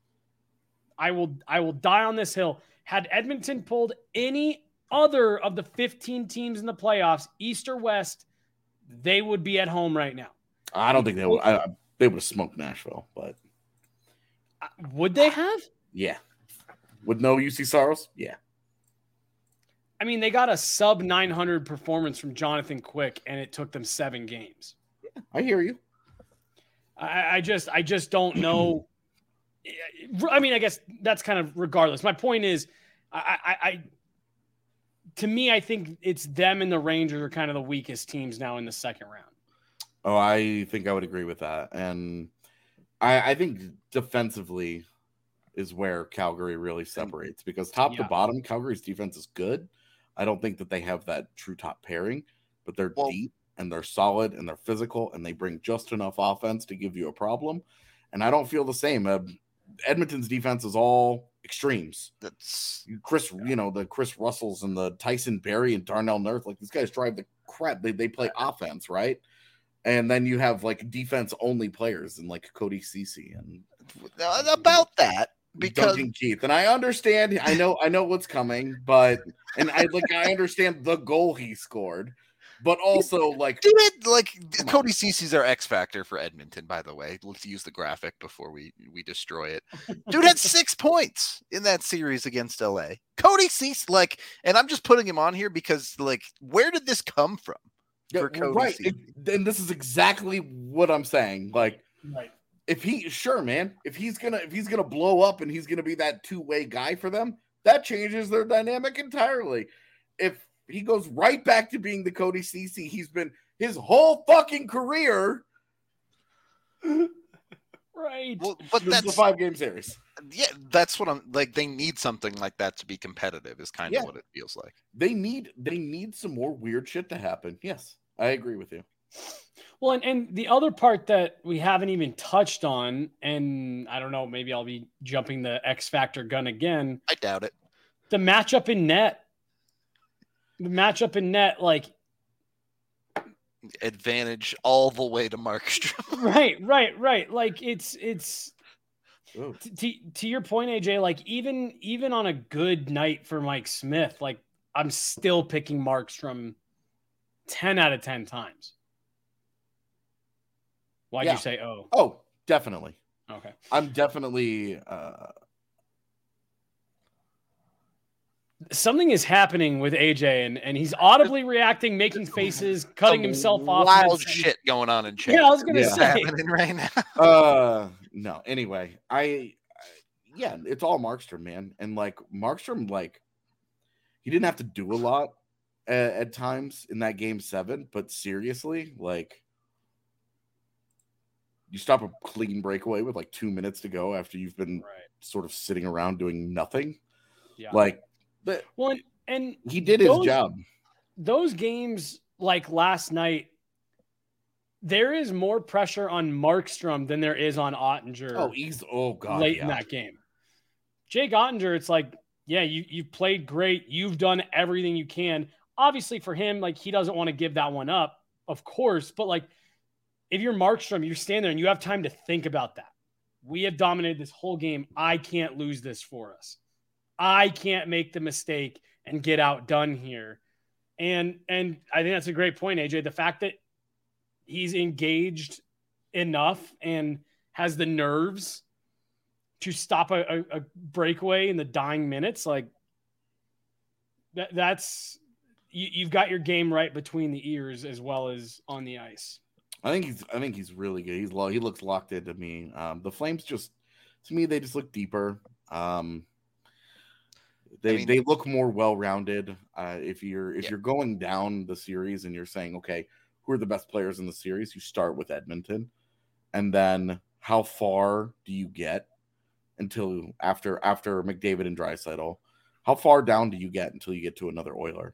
S2: will die on this hill. Had Edmonton pulled any other of the 15 teams in the playoffs, East or West, they would be at home right now.
S3: I don't think they would. They would have smoked Nashville, but
S2: would they have?
S3: Yeah. With no UC Saros? Yeah.
S2: I mean, they got a sub 900 performance from Jonathan Quick, and it took them 7 games.
S3: Yeah, I hear you.
S2: I just don't know. I mean, I guess that's kind of regardless. My point is, to me, I think it's them and the Rangers are kind of the weakest teams now in the second round.
S3: Oh, I think I would agree with that. And I think defensively is where Calgary really separates, because top to bottom, Calgary's defense is good. I don't think that they have that true top pairing, but they're deep. and they're solid and they're physical and they bring just enough offense to give you a problem. And I don't feel the same. Edmonton's defense is all extremes.
S4: That's
S3: the Chris Russells and the Tyson Berry and Darnell Nurse. Like, these guys drive the crap. They play offense, right? And then you have like defense only players and like Cody Ceci and
S4: about that. Because
S3: Duncan Keith, and I understand, I know what's coming, but I understand the goal he scored, but also
S4: Cody Ceci's our X factor for Edmonton. By the way, let's use the graphic before we destroy it. Dude had 6 points in that series against LA. Cody Ceci, and I'm just putting him on here because where did this come from? For Cody
S3: right,
S4: Ceci?
S3: And this is exactly what I'm saying. Like,
S2: Right.
S3: if he's gonna blow up and he's gonna be that two-way guy for them, that changes their dynamic entirely. If he goes right back to being the Cody Ceci he's been his whole fucking career,
S2: Right.
S4: Well, but
S3: this
S4: that's
S3: is a 5-game series.
S4: Yeah, that's what I'm like. They need something like that to be competitive. Is kind of what it feels like.
S3: They need some more weird shit to happen. Yes, I agree with you.
S2: Well, and the other part that we haven't even touched on, and I don't know, maybe I'll be jumping the X Factor gun again.
S4: I doubt it.
S2: The matchup in net. Like
S4: advantage all the way to Markstrom.
S2: Right. Like it's to your point, AJ, like even on a good night for Mike Smith, like I'm still picking Markstrom 10 out of 10 times. Why'd you say
S3: Oh, definitely.
S2: Okay.
S3: I'm definitely
S2: something is happening with AJ and he's audibly reacting, making faces, cutting himself off.
S4: Wild shit going on in chat.
S2: Yeah, I was gonna say
S4: happening right now.
S3: No. Anyway, it's all Markstrom, man. And like Markstrom, like he didn't have to do a lot at times in that game 7, but seriously, like you stop a clean breakaway with like 2 minutes to go after you've been sort of sitting around doing nothing.
S2: Yeah.
S3: Like,
S2: well, and
S3: he did his job.
S2: Those games, like last night, there is more pressure on Markstrom than there is on Ottinger. Late in that game. Jake Ottinger, it's like, yeah, you've played great. You've done everything you can. Obviously, for him, like he doesn't want to give that one up, of course. But like, if you're Markstrom, you're standing there and you have time to think about that. We have dominated this whole game. I can't lose this for us. I can't make the mistake and get outdone here. And I think that's a great point, AJ. The fact that he's engaged enough and has the nerves to stop a breakaway in the dying minutes, like that's you've got your game right between the ears as well as on the ice.
S3: I think he's really good. He looks locked into me. The Flames just, to me, they just look deeper. They look more well-rounded. If you're going down the series and you're saying, okay, who are the best players in the series? You start with Edmonton, and then how far do you get until after McDavid and Draisaitl? How far down do you get until you get to another Oiler?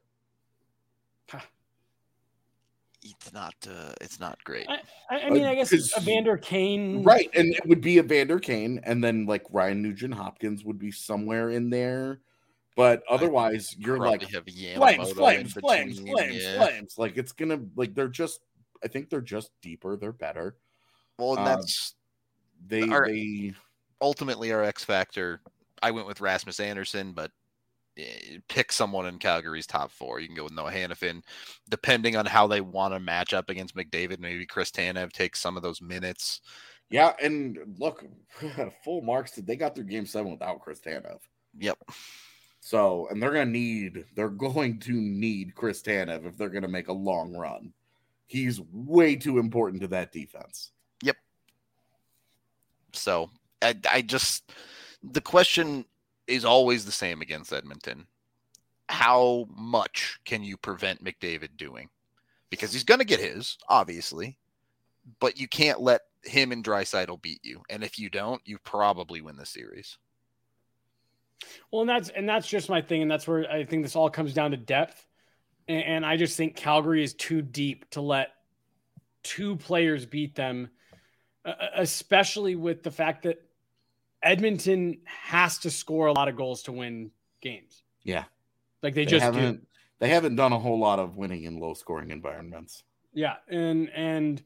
S4: It's not great.
S2: I mean, I guess Evander Kane,
S3: right? And it would be Evander Kane, and then like Ryan Nugent Hopkins would be somewhere in there. But otherwise, you're like flames. Like it's gonna like they're just. I think they're just deeper. They're better.
S4: Well, and that's they ultimately our X factor. I went with Rasmus Anderson, but pick someone in Calgary's top 4. You can go with Noah Hannafin, depending on how they want to match up against McDavid. Maybe Chris Tanev takes some of those minutes.
S3: Yeah, and look, full marks. They got through Game 7 without Chris Tanev.
S4: Yep.
S3: So, and they're going to need Chris Tanev if they're going to make a long run. He's way too important to that defense.
S4: Yep. So, the question is always the same against Edmonton. How much can you prevent McDavid doing? Because he's going to get his, obviously, but you can't let him and Draisaitl beat you. And if you don't, you probably win the series.
S2: Well, and that's just my thing. And that's where I think this all comes down to depth. And I just think Calgary is too deep to let two players beat them, especially with the fact that Edmonton has to score a lot of goals to win games.
S3: Yeah.
S2: Like they just do.
S3: They haven't done a whole lot of winning in low scoring environments.
S2: Yeah. And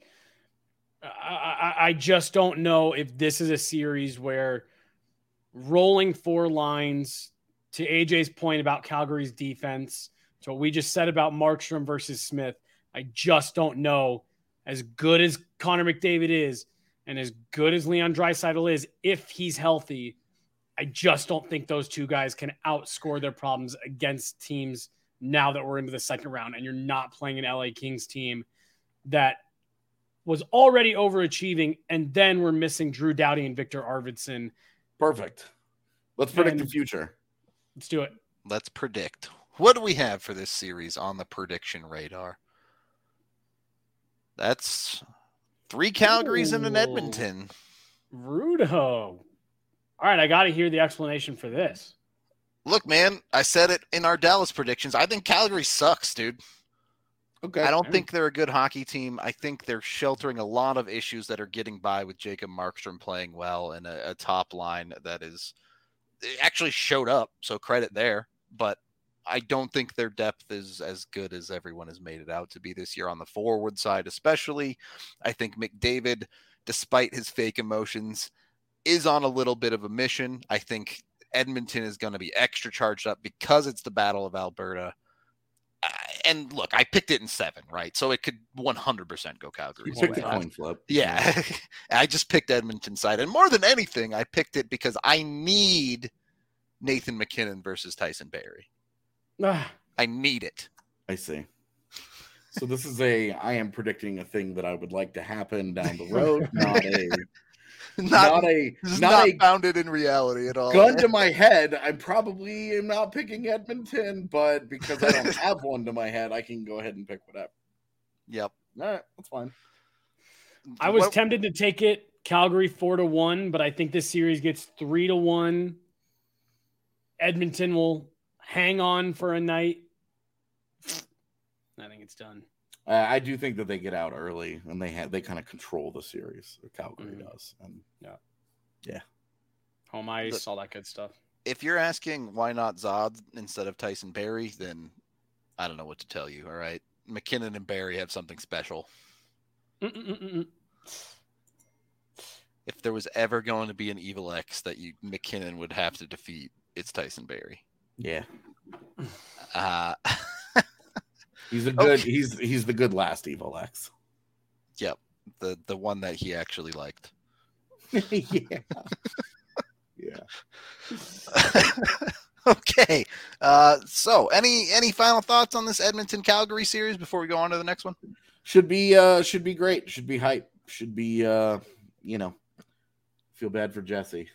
S2: I just don't know if this is a series where rolling four lines, to AJ's point about Calgary's defense, to what we just said about Markstrom versus Smith, I just don't know, as good as Connor McDavid is and as good as Leon Draisaitl is, if he's healthy, I just don't think those two guys can outscore their problems against teams now that we're into the second round and you're not playing an LA Kings team that was already overachieving, and then we're missing Drew Doughty and Victor Arvidsson.
S3: Perfect. Let's predict the future.
S2: Let's do it.
S4: Let's predict. What do we have for this series on the prediction radar? That's 3 Calgarys and an Edmonton.
S2: Rudo. All right, I got to hear the explanation for this.
S4: Look, man, I said it in our Dallas predictions. I think Calgary sucks, dude.
S3: Okay.
S4: I don't think they're a good hockey team. I think they're sheltering a lot of issues that are getting by with Jacob Markstrom playing well and a top line that is actually showed up. So credit there. But I don't think their depth is as good as everyone has made it out to be this year on the forward side, especially. I think McDavid, despite his fake emotions, is on a little bit of a mission. I think Edmonton is going to be extra charged up because it's the Battle of Alberta. And look, I picked it in 7, right? So it could 100% go Calgary.
S3: You picked a coin flip.
S4: Yeah. I just picked Edmonton side. And more than anything, I picked it because I need Nathan McKinnon versus Tyson Barrie. I need it.
S3: I see. So this is I am predicting a thing that I would like to happen down the road, not
S4: founded in reality at all.
S3: Gun to my head, I probably am not picking Edmonton, but because I don't have one to my head, I can go ahead and pick whatever.
S4: Yep.
S3: All right, that's fine.
S2: I was tempted to take it Calgary 4-1, but I think this series gets 3-1. Edmonton will hang on for a night. I think it's done.
S3: I do think that they get out early and they kind of control the series. Calgary does. And yeah.
S2: Home ice, all that good stuff.
S4: If you're asking why not Zod instead of Tyson Barrie, then I don't know what to tell you. All right, McKinnon and Barrie have something special. If there was ever going to be an evil X that McKinnon would have to defeat, it's Tyson Barrie.
S3: Yeah. He's a good. Okay. He's the good last evil X.
S4: Yep, the one that he actually liked.
S3: Yeah.
S4: Okay. So any final thoughts on this Edmonton Calgary series before we go on to the next one?
S3: Should be great. Should be hype. Should be feel bad for Jesse.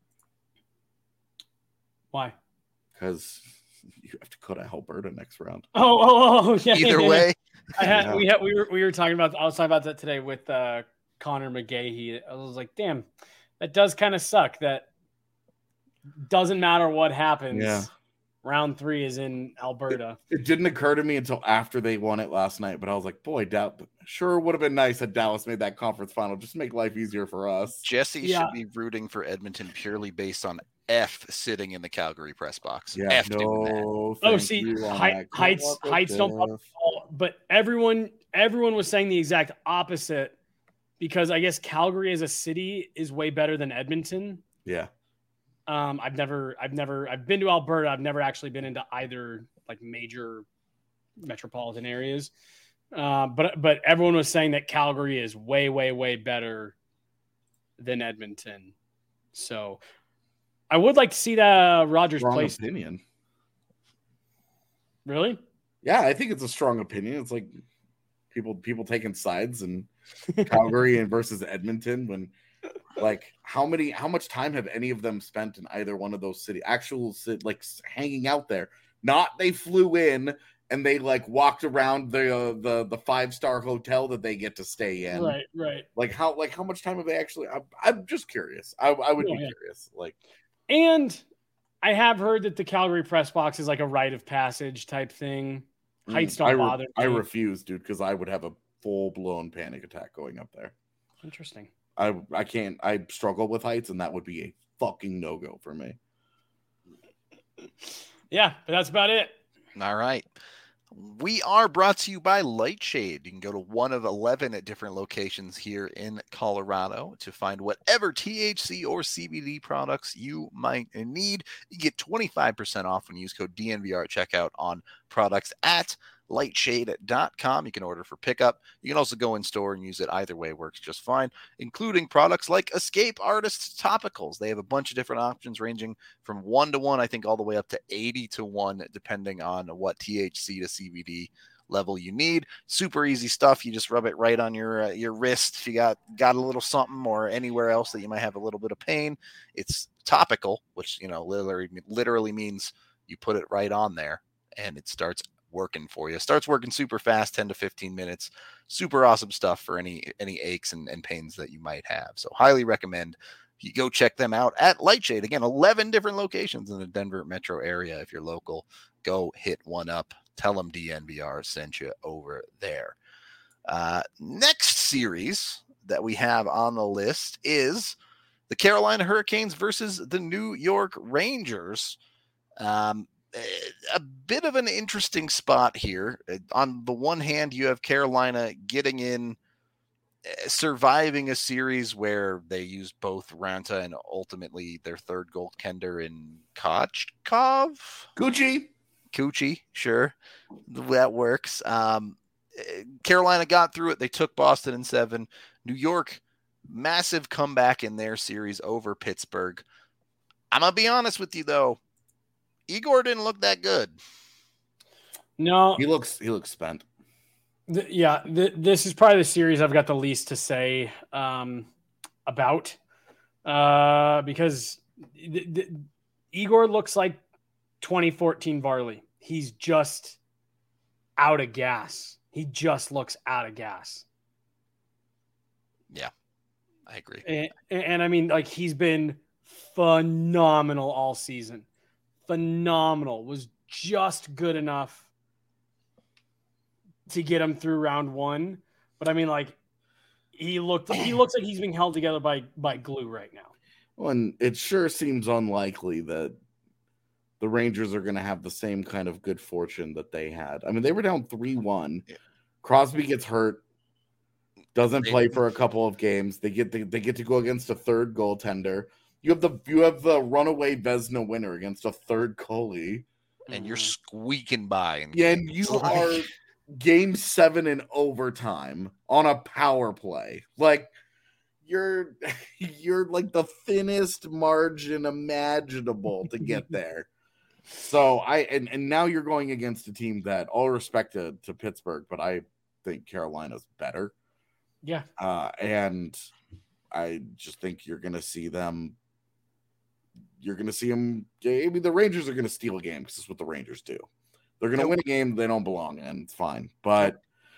S2: Why?
S3: Because you have to go to Alberta next round.
S2: Oh, yeah.
S4: Either way.
S2: We were talking about. I was talking about that today with Connor McGahey. I was like, damn, that does kind of suck. That doesn't matter what happens.
S3: Yeah.
S2: Round 3 is in Alberta.
S3: It didn't occur to me until after they won it last night, but I was like, boy, sure would have been nice that Dallas made that conference final. Just make life easier for us.
S4: Jesse should be rooting for Edmonton purely based on F sitting in the Calgary press box.
S3: Yeah,
S4: F
S3: doing
S4: that.
S2: Oh, see, heights don't pop, but everyone was saying the exact opposite, because I guess Calgary as a city is way better than Edmonton.
S3: Yeah.
S2: I've been to Alberta. I've never actually been into either like major metropolitan areas. But everyone was saying that Calgary is way, way, way better than Edmonton. So I would like to see that Rogers Place
S3: opinion.
S2: Really?
S3: Yeah, I think it's a strong opinion. It's like people taking sides, and Calgary and versus Edmonton, when like how much time have any of them spent in either one of those like hanging out there? Not they flew in and they like walked around the 5-star hotel that they get to stay in.
S2: Right.
S3: Like how much time have they actually? I'm just curious. I would be curious. Like,
S2: and I have heard that the Calgary press box is like a rite of passage type thing. Heights don't bother me.
S3: I refuse, dude, because I would have a full-blown panic attack going up there.
S2: Interesting.
S3: I can't. I struggle with heights, and that would be a fucking no-go for me.
S2: Yeah, but that's about it.
S4: All right. We are brought to you by Lightshade. You can go to one of 11 at different locations here in Colorado to find whatever THC or CBD products you might need. You get 25% off when you use code DNVR at checkout on products at lightshade.com. You can order for pickup. You can also go in store and use it. Either way works just fine, including products like Escape Artist Topicals. They have a bunch of different options ranging from 1 to 1, I think, all the way up to 80 to 1, depending on what THC to CBD level you need. Super easy stuff. You just rub it right on your wrist if you got a little something, or anywhere else that you might have a little bit of pain. It's topical, which literally means you put it right on there and it starts working for you. Starts working super fast, 10 to 15 minutes. Super awesome stuff for any aches and pains that you might have. So highly recommend you go check them out at Lightshade. Again, 11 different locations in the Denver metro area. If you're local, go hit one up. Tell them DNVR sent you over there. Next series that we have on the list is the Carolina Hurricanes versus the New York Rangers. A bit of an interesting spot here. On the one hand, you have Carolina getting in, surviving a series where they used both Ranta and ultimately their third goaltender in Kochkov. Coochie, sure. That works. Carolina got through it. They took Boston in 7. New York, massive comeback in their series over Pittsburgh. I'm going to be honest with you, though. Igor didn't look that good.
S2: No.
S3: He looks spent.
S2: This is probably the series I've got the least to say about because Igor looks like 2014 Varley. He's just out of gas. He just looks out of gas.
S4: Yeah, I agree.
S2: And I mean, like, he's been phenomenal all season. Phenomenal. Was just good enough to get him through round 1. But I mean, like, he looks like he's being held together by glue right now.
S3: Well, and it sure seems unlikely that the Rangers are going to have the same kind of good fortune that they had. I mean, they were down 3-1. Yeah. Crosby gets hurt, doesn't play for a couple of games. They get to go against a third goaltender. You have the runaway Vezina winner against a third goalie,
S4: and you're squeaking by.
S3: And you are game 7 in overtime on a power play. Like, you're like the thinnest margin imaginable to get there. So and now you're going against a team that, all respect to Pittsburgh, but I think Carolina's better.
S2: Yeah.
S3: And I just think you're going to see them. You're going to see them. I mean, the Rangers are going to steal a game because that's what the Rangers do. They're going to win a game they don't belong in. It's fine. But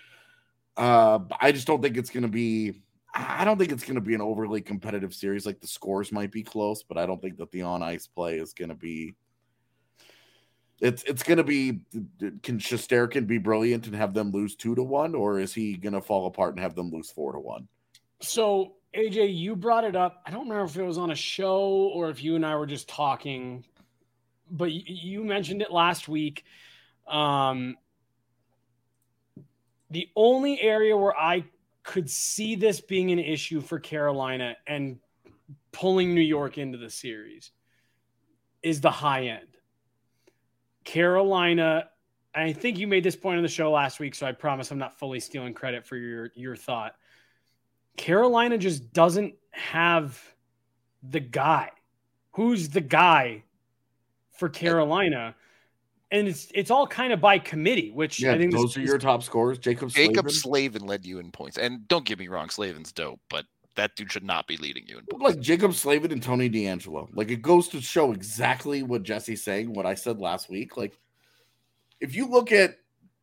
S3: I just don't think it's going to be. I don't think it's going to be an overly competitive series. Like, the scores might be close, but I don't think that the on ice play is going to be. It's going to be. Can Shesterkin be brilliant and have them lose 2-1, or is he going to fall apart and have them lose 4-1?
S2: So, AJ, you brought it up. I don't remember if it was on a show or if you and I were just talking, but you mentioned it last week. The only area where I could see this being an issue for Carolina and pulling New York into the series is the high end. Carolina, I think you made this point on the show last week, so I promise I'm not fully stealing credit for your thought. Carolina just doesn't have the guy. Who's the guy for Carolina? And it's all kind of by committee, which I think
S3: those are your top scorers. Jacob
S4: Slavin led you in points. And don't get me wrong, Slavin's dope, but that dude should not be leading you in points.
S3: Like Jacob Slavin and Tony DeAngelo. Like, it goes to show exactly what Jesse's saying, what I said last week. Like, if you look at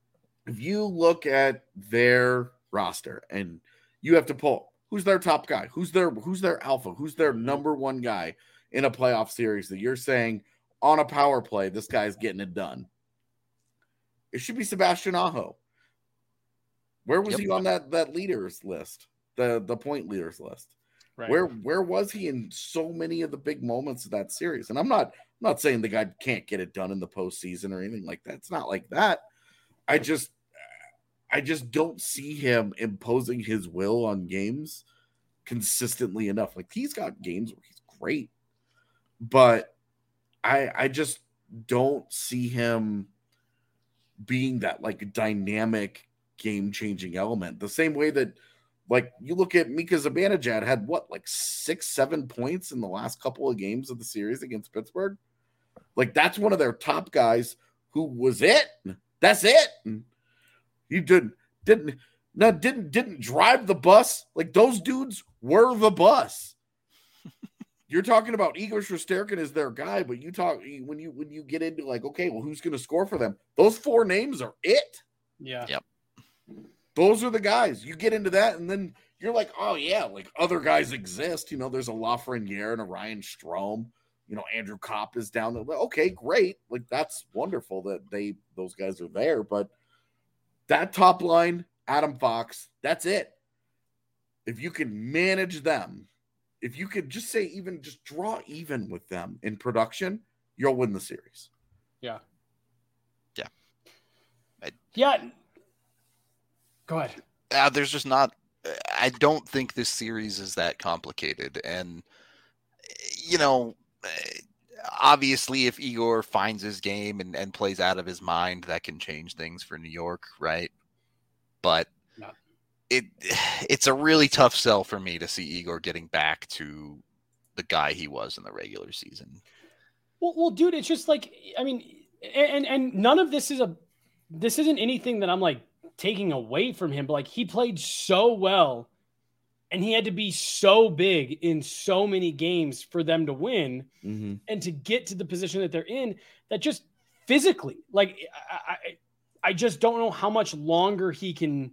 S3: their roster and you have to pull who's their top guy, who's their alpha, who's their number one guy in a playoff series that you're saying on a power play, this guy's getting it done. It should be Sebastian Aho. Where was he on that leaders list, the point leaders list?
S2: Right.
S3: Where was he in so many of the big moments of that series? And I'm not saying the guy can't get it done in the postseason or anything like that. It's not like that. I just don't see him imposing his will on games consistently enough. Like, he's got games where he's great, but I just don't see him being that like dynamic game-changing element. The same way that, like, you look at Mika Zibanejad had what, like 6-7 points in the last couple of games of the series against Pittsburgh. Like, that's one of their top guys who was it. That's it. He didn't drive the bus. Like, those dudes were the bus. You're talking about Igor Shesterkin as their guy, but when you get into like, okay, well, who's going to score for them? Those 4 names are it.
S2: Yeah.
S4: Yep.
S3: Those are the guys. You get into that, and then you're like, oh yeah, like other guys exist. You know, there's a Lafreniere and a Ryan Strome. You know, Andrew Kopp is down there. Okay, great. Like, that's wonderful that those guys are there. But that top line, Adam Fox, that's it. If you can manage them, if you could just say just draw even with them in production, you'll win the series.
S2: Yeah.
S4: Yeah.
S2: Yeah. Go ahead.
S4: There's just not. I don't think this series is that complicated, and you know, obviously, if Igor finds his game and plays out of his mind, that can change things for New York, right? But it's a really tough sell for me to see Igor getting back to the guy he was in the regular season.
S2: Well, dude, it's just like, I mean, and none of this isn't anything that I'm like taking away from him, but like, he played so well and he had to be so big in so many games for them to win and to get to the position that they're in, that just physically, like, I just don't know how much longer he can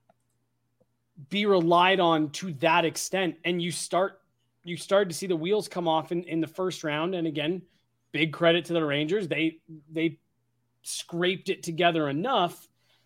S2: be relied on to that extent. And you started to see the wheels come off in the first round. And again, big credit to the Rangers. They scraped it together enough.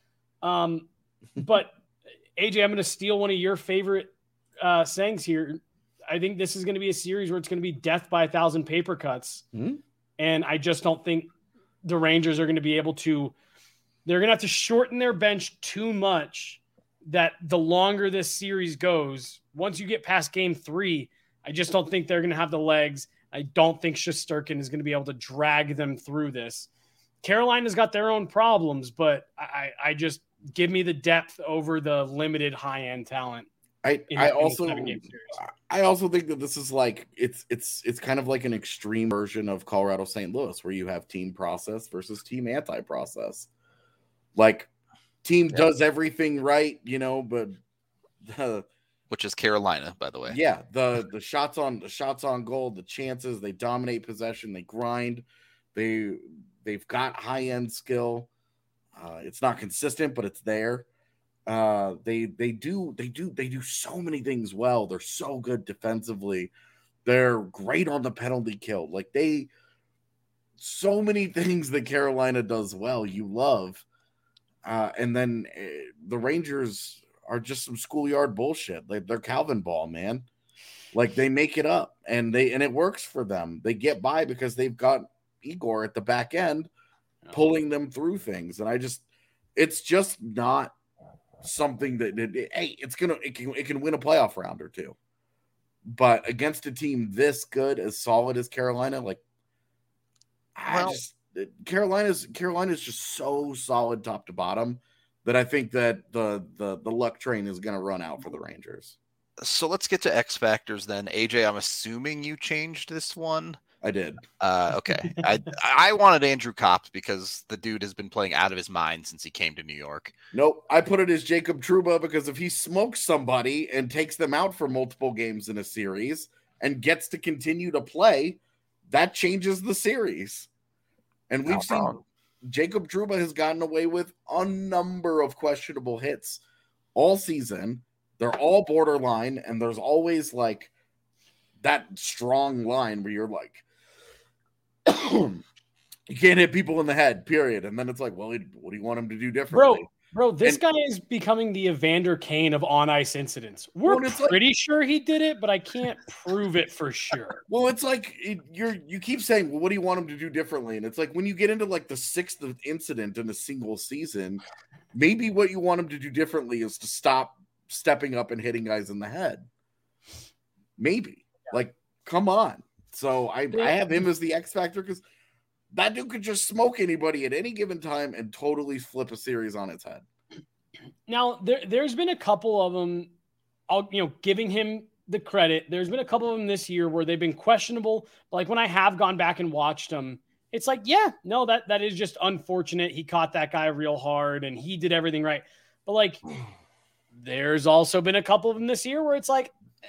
S2: But AJ, I'm going to steal one of your favorite sayings here. I think this is going to be a series where it's going to be death by 1,000 paper cuts. And I just don't think the Rangers are going to be able to, they're going to have to shorten their bench too much, that the longer this series goes, once you get past game 3, I just don't think they're going to have the legs. I don't think Shesterkin is going to be able to drag them through this. Carolina's got their own problems, but I just give me the depth over the limited high-end talent.
S3: I also think that this is like it's kind of like an extreme version of Colorado St. Louis, where you have team process versus team anti-process. Like, team does everything right, you know, but
S4: which is Carolina, by the way.
S3: Yeah, the shots on goal, the chances, they dominate possession, they grind, they've got high-end skill. It's not consistent, but it's there. They do so many things well. They're so good defensively. They're great on the penalty kill. Like, so many things that Carolina does well, you love. And then the Rangers are just some schoolyard bullshit. They're Calvin ball, man. Like, they make it up, and it works for them. They get by because they've got Igor at the back end pulling them through things. And it's just not something that it can win a playoff round or two. But against a team this good, as solid as Carolina, like, Carolina's just so solid top to bottom that I think that the luck train is going to run out for the Rangers.
S4: So let's get to X factors then. AJ, I'm assuming you changed this one.
S3: I did.
S4: Okay. I wanted Andrew Kopp because the dude has been playing out of his mind since he came to New York.
S3: Nope. I put it as Jacob Trouba because if he smokes somebody and takes them out for multiple games in a series and gets to continue to play, that changes the series. And we've seen Jacob Trouba has gotten away with a number of questionable hits all season. They're all borderline, and there's always like that strong line where you're like, He can't hit people in the head, period. And then it's like, well, what do you want him to do differently?
S2: Bro, this guy is becoming the Evander Kane of on-ice incidents. We're pretty sure he did it, but I can't prove it for sure.
S3: Well, it's like you keep saying, well, what do you want him to do differently? And it's like when you get into like the 6th incident in a single season, maybe what you want him to do differently is to stop stepping up and hitting guys in the head. Maybe. Yeah. Like, come on. So I have him as the X factor because that dude could just smoke anybody at any given time and totally flip a series on its head.
S2: Now, there's been a couple of them, giving him the credit. There's been a couple of them this year where they've been questionable. But like when I have gone back and watched them, it's like, yeah, no, that is just unfortunate. He caught that guy real hard and he did everything right. But like, there's also been a couple of them this year where it's like,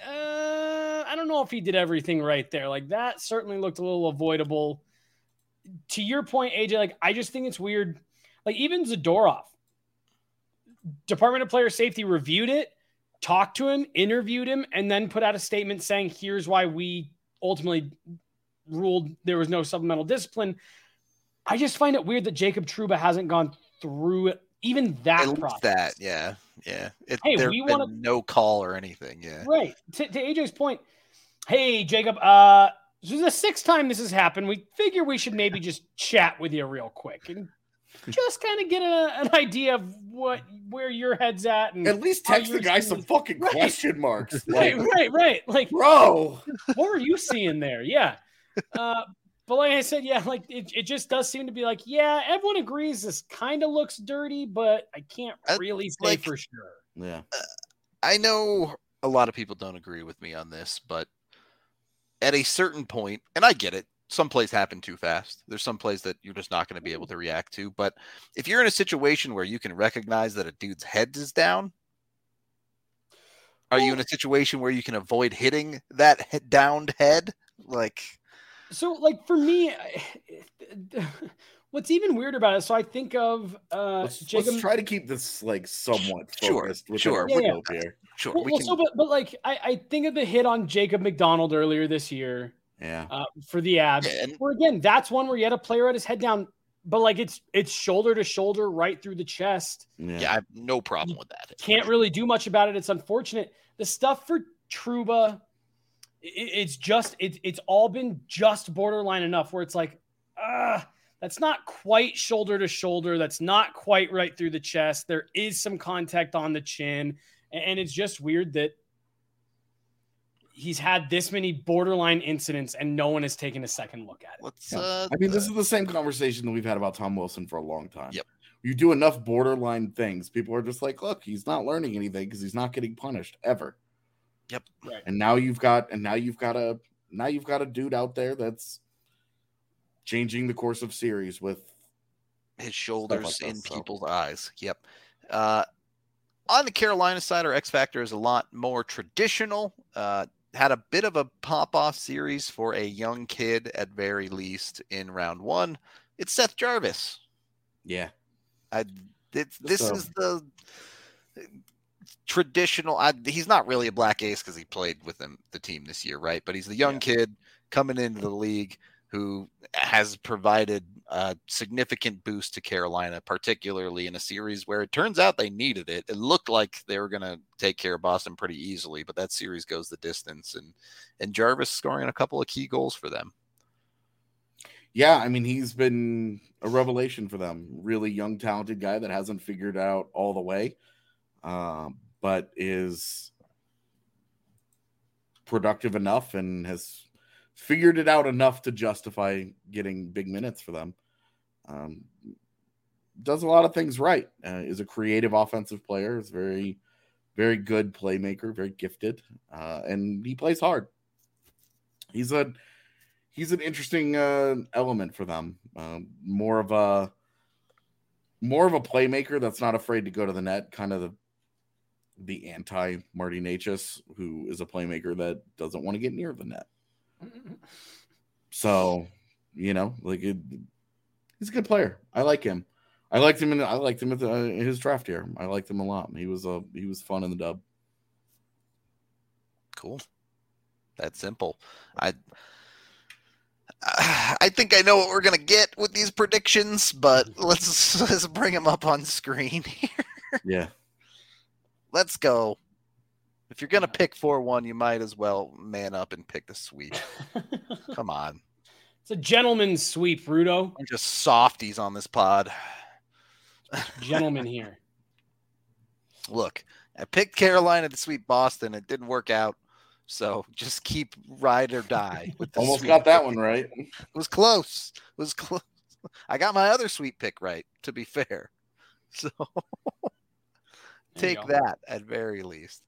S2: I don't know if he did everything right there. Like that certainly looked a little avoidable. To your point, AJ, like, I just think it's weird. Like, even Zadorov, Department of Player Safety reviewed it, talked to him, interviewed him, and then put out a statement saying, here's why we ultimately ruled there was no supplemental discipline. I just find it weird that Jacob Trouba hasn't gone through even that process.
S4: That, yeah.
S2: There's been
S4: no call or anything, yeah.
S2: Right. To AJ's point, hey, Jacob, this is the 6th time this has happened. We figure we should maybe just chat with you real quick and just kind of get an idea of where your head's at. And
S3: at least text the guy some fucking question marks.
S2: Right. Like,
S3: bro,
S2: what were you seeing there? Yeah. But like I said, yeah, like it just does seem to be like, yeah, everyone agrees this kind of looks dirty, but I can't really say for sure.
S3: Yeah.
S4: I know a lot of people don't agree with me on this, but at a certain point, and I get it, some plays happen too fast. There's some plays that you're just not going to be able to react to. But if you're in a situation where you can recognize that a dude's head is down, are you in a situation where you can avoid hitting that downed head?
S2: So, like, for me, what's even weird about it, so I think of
S3: let's try to keep this, like, somewhat focused.
S4: Sure.
S3: Here.
S4: Sure.
S2: But like, I think of the hit on Jacob McDonald earlier this year.
S3: Yeah.
S2: For the Abs. Yeah, where, again, that's one where you had a player at his head down, but, like, it's shoulder to shoulder right through the chest.
S4: Yeah, I have no problem with that.
S2: Can't really do much about it. It's unfortunate. The stuff for Trouba, it's all been just borderline enough where it's like, that's not quite shoulder to shoulder. That's not quite right through the chest. There is some contact on the chin. And it's just weird that he's had this many borderline incidents and no one has taken a second look at it.
S3: I mean, this is the same conversation that we've had about Tom Wilson for a long time.
S4: Yep.
S3: You do enough borderline things, people are just like, look, he's not learning anything because he's not getting punished ever.
S4: Yep.
S2: Right.
S3: And now you've got a dude out there that's changing the course of series with
S4: his shoulders in people's eyes. Yep. On the Carolina side, our X Factor is a lot more traditional. Had a bit of a pop-off series for a young kid at very least in round 1. It's Seth Jarvis.
S3: Yeah.
S4: This is the traditional. He's not really a black ace because he played with the team this year, right? But he's the young kid coming into the league who has provided a significant boost to Carolina, particularly in a series where it turns out they needed it. It looked like they were going to take care of Boston pretty easily, but that series goes the distance, and Jarvis scoring a couple of key goals for them.
S3: Yeah, I mean, he's been a revelation for them. Really young, talented guy that hasn't figured out all the way, but is productive enough and has figured it out enough to justify getting big minutes for them. Does a lot of things right. Is a creative offensive player. Is very, very good playmaker. Very gifted, and he plays hard. He's an interesting element for them. More of a playmaker that's not afraid to go to the net. Kind of the anti Marty Necas, who is a playmaker that doesn't want to get near the net. So, he's a good player. I like him. I liked him in his draft year. I liked him a lot. He was fun in the dub.
S4: Cool. That's simple. I think I know what we're gonna get with these predictions, but let's bring them up on screen here.
S3: Yeah.
S4: Let's go. If you're gonna pick 4-1, you might as well man up and pick the sweep. Come on.
S2: It's a gentleman's sweep, Rudo.
S4: I'm just softies on this pod.
S2: Gentleman here.
S4: Look, I picked Carolina to sweep Boston. It didn't work out. So just keep ride or die with the
S3: Almost
S4: sweep
S3: got that
S4: pick.
S3: one right.
S4: It was close. I got my other sweep pick right, to be fair. So take that at very least.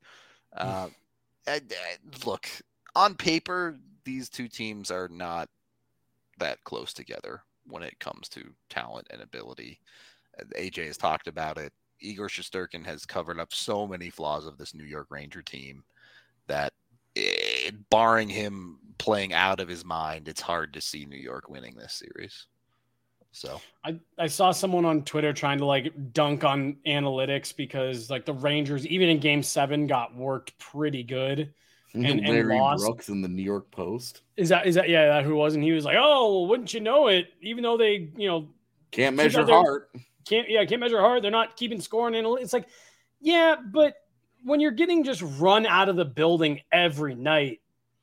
S4: Look, on paper, these two teams are not that close together when it comes to talent and ability. AJ has talked about it. Igor Shesterkin has covered up so many flaws of this New York Ranger team that, barring him playing out of his mind, it's hard to see New York winning this series. So
S2: I saw someone on Twitter trying to like dunk on analytics because like the Rangers, even in Game 7, got worked pretty good and
S3: Larry
S2: lost.
S3: Brooks in the New York Post.
S2: Is that that who was? And he was like, "Oh, well, wouldn't you know it? Even though they
S3: can't measure heart,
S2: can't measure heart. They're not keeping score and analytics." It's like, yeah, but when you're getting just run out of the building every night,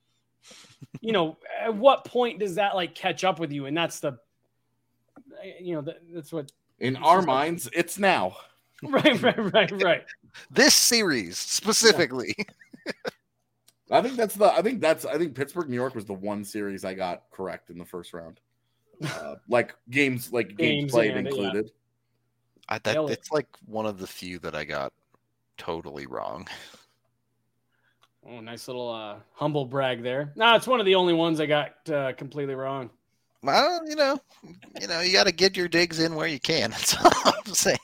S2: at what point does that like catch up with you? And that's that's what
S3: in our minds, it's now.
S2: Right.
S4: This series specifically.
S3: I think Pittsburgh, New York was the one series I got correct in the first round. Games played included.
S4: Yeah. It's like one of the few that I got totally wrong.
S2: Oh, nice little humble brag there. No, it's one of the only ones I got completely wrong.
S4: Well, you got to get your digs in where you can. That's all I'm saying.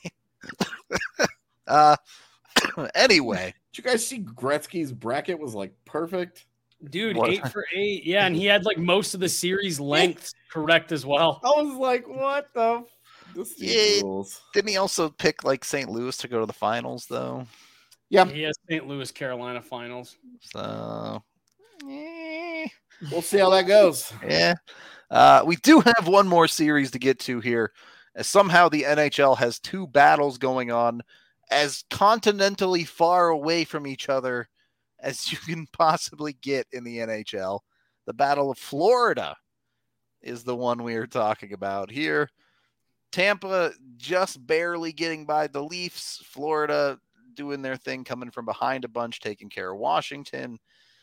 S4: Anyway,
S3: did you guys see Gretzky's bracket was like perfect?
S2: Dude, 8 for 8. Yeah, and he had like most of the series lengths correct as well.
S3: I was like, what the?
S4: Didn't he also pick like St. Louis to go to the finals though?
S2: Yeah, he has St. Louis Carolina finals.
S4: So
S3: we'll see how that goes.
S4: Yeah. We do have one more series to get to here, as somehow the NHL has two battles going on as continentally far away from each other as you can possibly get in the NHL. The Battle of Florida is the one we are talking about here. Tampa just barely getting by the Leafs. Florida doing their thing, coming from behind a bunch, taking care of Washington.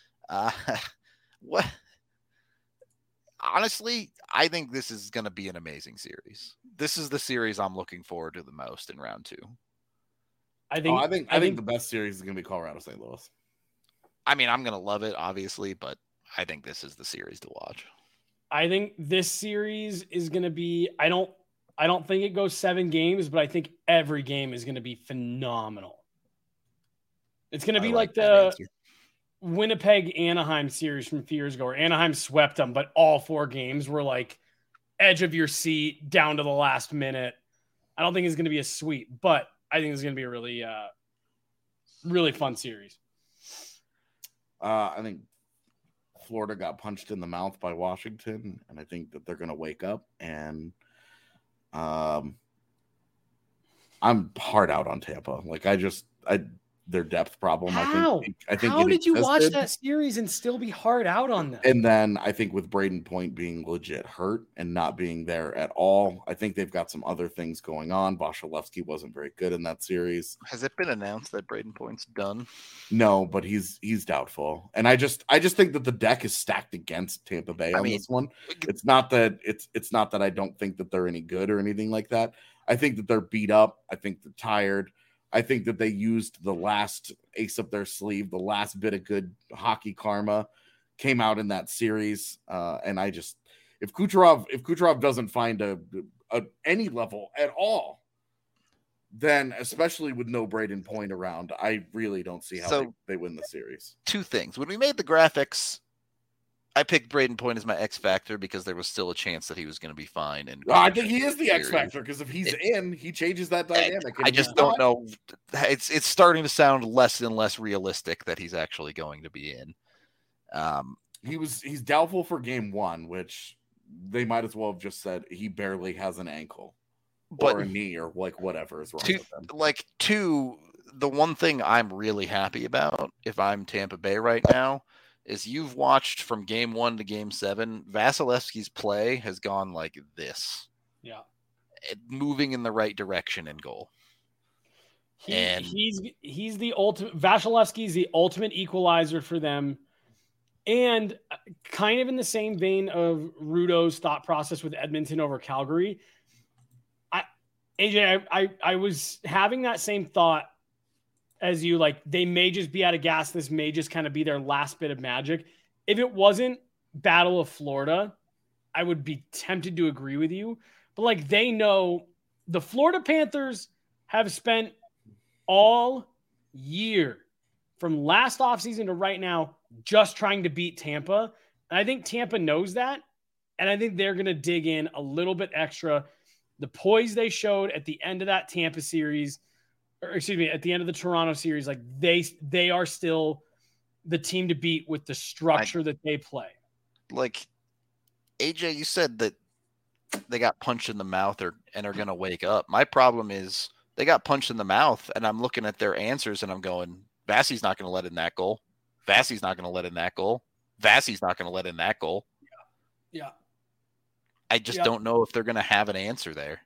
S4: What? Honestly, I think this is going to be an amazing series. This is the series I'm looking forward to the most in round 2.
S3: I think the best series is going to be Colorado St. Louis.
S4: I mean, I'm going to love it, obviously, but I think this is the series to watch.
S2: I think this series is going to be, I don't think it goes 7 games, but I think every game is going to be phenomenal. It's going to be like the Winnipeg-Anaheim series from a few years ago, where Anaheim swept them, but all 4 games were like edge of your seat down to the last minute. I don't think it's going to be a sweep, but I think it's going to be a really, really fun series.
S3: I think Florida got punched in the mouth by Washington, and I think that they're going to wake up. And I'm hard out on Tampa. Their depth problem.
S2: How?
S3: I think
S2: How did you watch that series and still be hard out on them?
S3: And then I think with Braden Point being legit hurt and not being there at all, I think they've got some other things going on. Vasilevsky wasn't very good in that series.
S4: Has it been announced that Braden Point's done?
S3: No, but he's doubtful. And I just think that the deck is stacked against Tampa Bay on this one. It's not that I don't think that they're any good or anything like that. I think that they're beat up. I think they're tired. I think that they used the last ace up their sleeve, the last bit of good hockey karma came out in that series. And if Kucherov doesn't find any level at all, then especially with no Braden Point around, I really don't see how they win the series.
S4: 2 things. When we made the graphics, I picked Braden Point as my X factor because there was still a chance that he was going to be fine. And
S3: I think he is the X factor because if he's in, he changes that dynamic.
S4: I just don't know. It's starting to sound less and less realistic that he's actually going to be in.
S3: He's doubtful for game 1, which they might as well have just said he barely has an ankle
S4: But
S3: or a knee or like whatever is wrong
S4: two,
S3: with him.
S4: the one thing I'm really happy about if I'm Tampa Bay right now is you've watched from game 1 to game 7, Vasilevsky's play has gone like this.
S2: Yeah.
S4: Moving in the right direction in goal.
S2: He's the ultimate. Vasilevsky's the ultimate equalizer for them, and kind of in the same vein of Rudo's thought process with Edmonton over Calgary. I was having that same thought as you. Like, they may just be out of gas. This may just kind of be their last bit of magic. If it wasn't Battle of Florida, I would be tempted to agree with you. But like, they know the Florida Panthers have spent all year from last offseason to right now just trying to beat Tampa. And I think Tampa knows that. And I think they're going to dig in a little bit extra. The poise they showed at the end of that Tampa series, or excuse me, at the end of the Toronto series, like they are still the team to beat with the structure that they play.
S4: Like, AJ, you said that they got punched in the mouth and are going to wake up. My problem is they got punched in the mouth, and I'm looking at their answers, and I'm going, Vasi's not going to let in that goal. Vasi's not going to let in that goal. Vasi's not going to let in that goal.
S2: Yeah.
S4: I just don't know if they're going to have an answer there.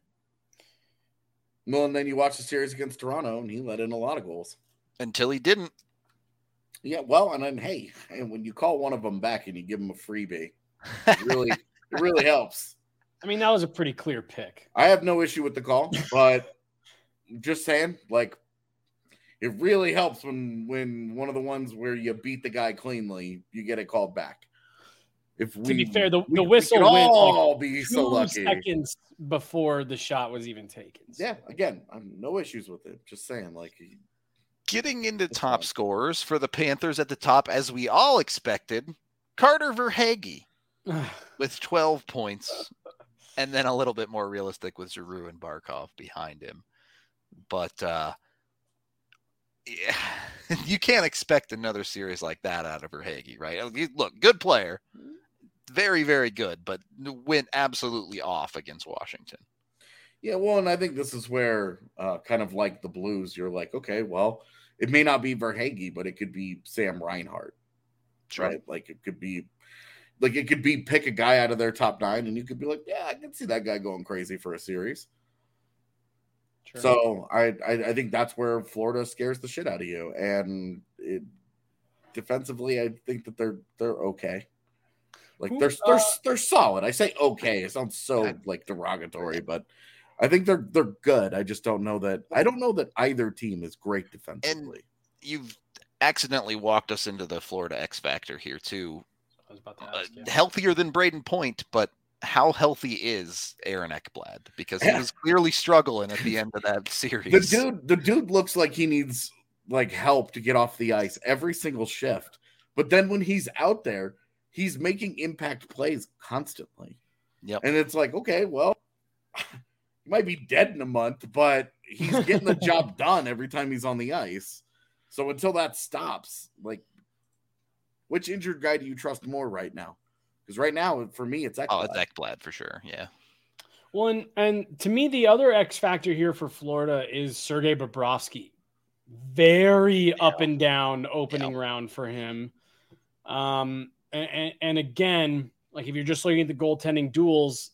S3: Well, and then you watch the series against Toronto, and he let in a lot of goals.
S4: Until he didn't.
S3: Yeah, well, and then, hey, and when you call one of them back and you give them a freebie, it really helps.
S2: I mean, that was a pretty clear pick.
S3: I have no issue with the call, but just saying, like, it really helps when one of the ones where you beat the guy cleanly, you get it called back. To
S2: be fair, the whistle went
S3: all
S2: like
S3: be so lucky.
S2: 2 seconds before the shot was even taken.
S3: Yeah, again, I'm no issues with it. Just saying, like,
S4: getting into top scorers for the Panthers at the top, as we all expected, Carter Verhaeghe with 12 points, and then a little bit more realistic with Giroux and Barkov behind him. But yeah, you can't expect another series like that out of Verhaeghe, right? Look, good player, very, very good, but went absolutely off against Washington.
S3: Yeah, well, and I think this is where kind of like the Blues, you're like, okay, well, it may not be Verhaeghe, but it could be Sam Reinhart,
S4: Sure.
S3: right? Like it could be pick a guy out of their top 9, and you could be like, yeah, I can see that guy going crazy for a series. Sure. So I think that's where Florida scares the shit out of you, and defensively, I think that they're okay. Like they're solid. I say okay. It sounds so like derogatory, but I think they're good. I just don't know that. I don't know that either team is great defensively.
S4: And you've accidentally walked us into the Florida X factor here too.
S2: I was about to ask,
S4: healthier than Braden Point, but how healthy is Aaron Ekblad? Because he was clearly struggling at the end of that series.
S3: The dude looks like he needs like help to get off the ice every single shift. But then when he's out there, he's making impact plays constantly.
S4: Yep.
S3: And it's like, okay, well, he might be dead in a month, but he's getting the job done every time he's on the ice. So until that stops, like, which injured guy do you trust more right now? Because right now, for me, it's Ekblad.
S4: Oh, it's Ekblad for sure, yeah.
S2: Well, and to me, the other X factor here for Florida is Sergei Bobrovsky. Very up and down opening round for him. And again, like if you're just looking at the goaltending duels,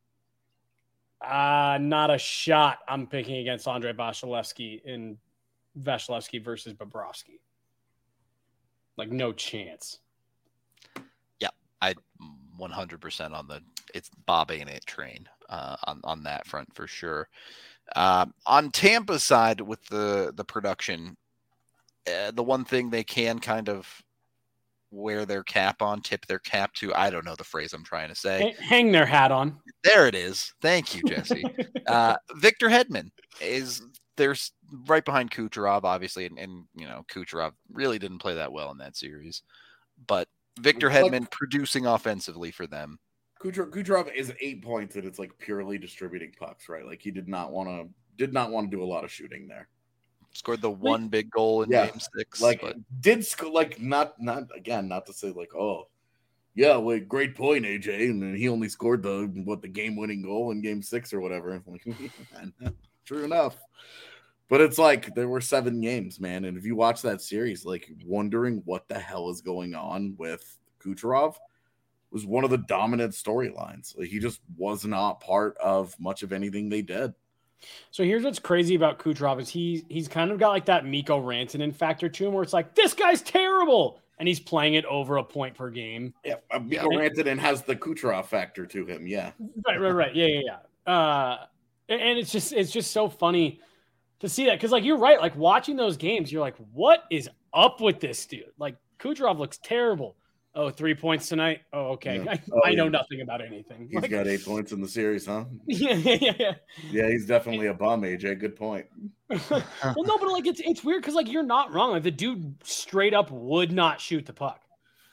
S2: not a shot I'm picking against Andrei Vasilevsky in Vasilevsky versus Bobrovsky. Like no chance.
S4: Yeah, I 100% on the it's Bob ain't it train on that front for sure. On Tampa's side with the production, the one thing they can kind of wear their cap on, tip their cap to, I don't know the phrase I'm trying to say.
S2: Hang their hat on.
S4: There it is. Thank you, Jesse. Victor Hedman is there's right behind Kucherov, obviously, and you know Kucherov really didn't play that well in that series, but Victor Hedman producing offensively for them.
S3: Kucherov is 8 points, and it's like purely distributing pucks, right? Like he did not want to do a lot of shooting there.
S4: Scored the one big goal in game 6.
S3: Like but... did score like not again, not to say like, oh, Yeah, wait, great point, AJ. And then he only scored the game-winning goal in Game 6 or whatever. True enough. But it's like there were 7 games, man. And if you watch that series, like wondering what the hell is going on with Kucherov was one of the dominant storylines. Like, he just was not part of much of anything they did.
S2: So here's what's crazy about Kucherov is he's kind of got like that Mikko Rantanen factor to him where it's like, this guy's terrible. And he's playing it over a point per game.
S3: Yeah, Mikko Rantanen has the Kucherov factor to him. Yeah.
S2: Right. Yeah. And it's just so funny to see that. Cause like, you're right. Like watching those games, you're like, what is up with this dude? Like Kucherov looks terrible. Oh, 3 points tonight. Oh, okay.
S3: Yeah.
S2: I know nothing about anything.
S3: He's got 8 points in the series, huh?
S2: Yeah.
S3: Yeah, he's definitely a bum, AJ. Good point.
S2: Well, no, but like it's weird because like you're not wrong. Like the dude straight up would not shoot the puck.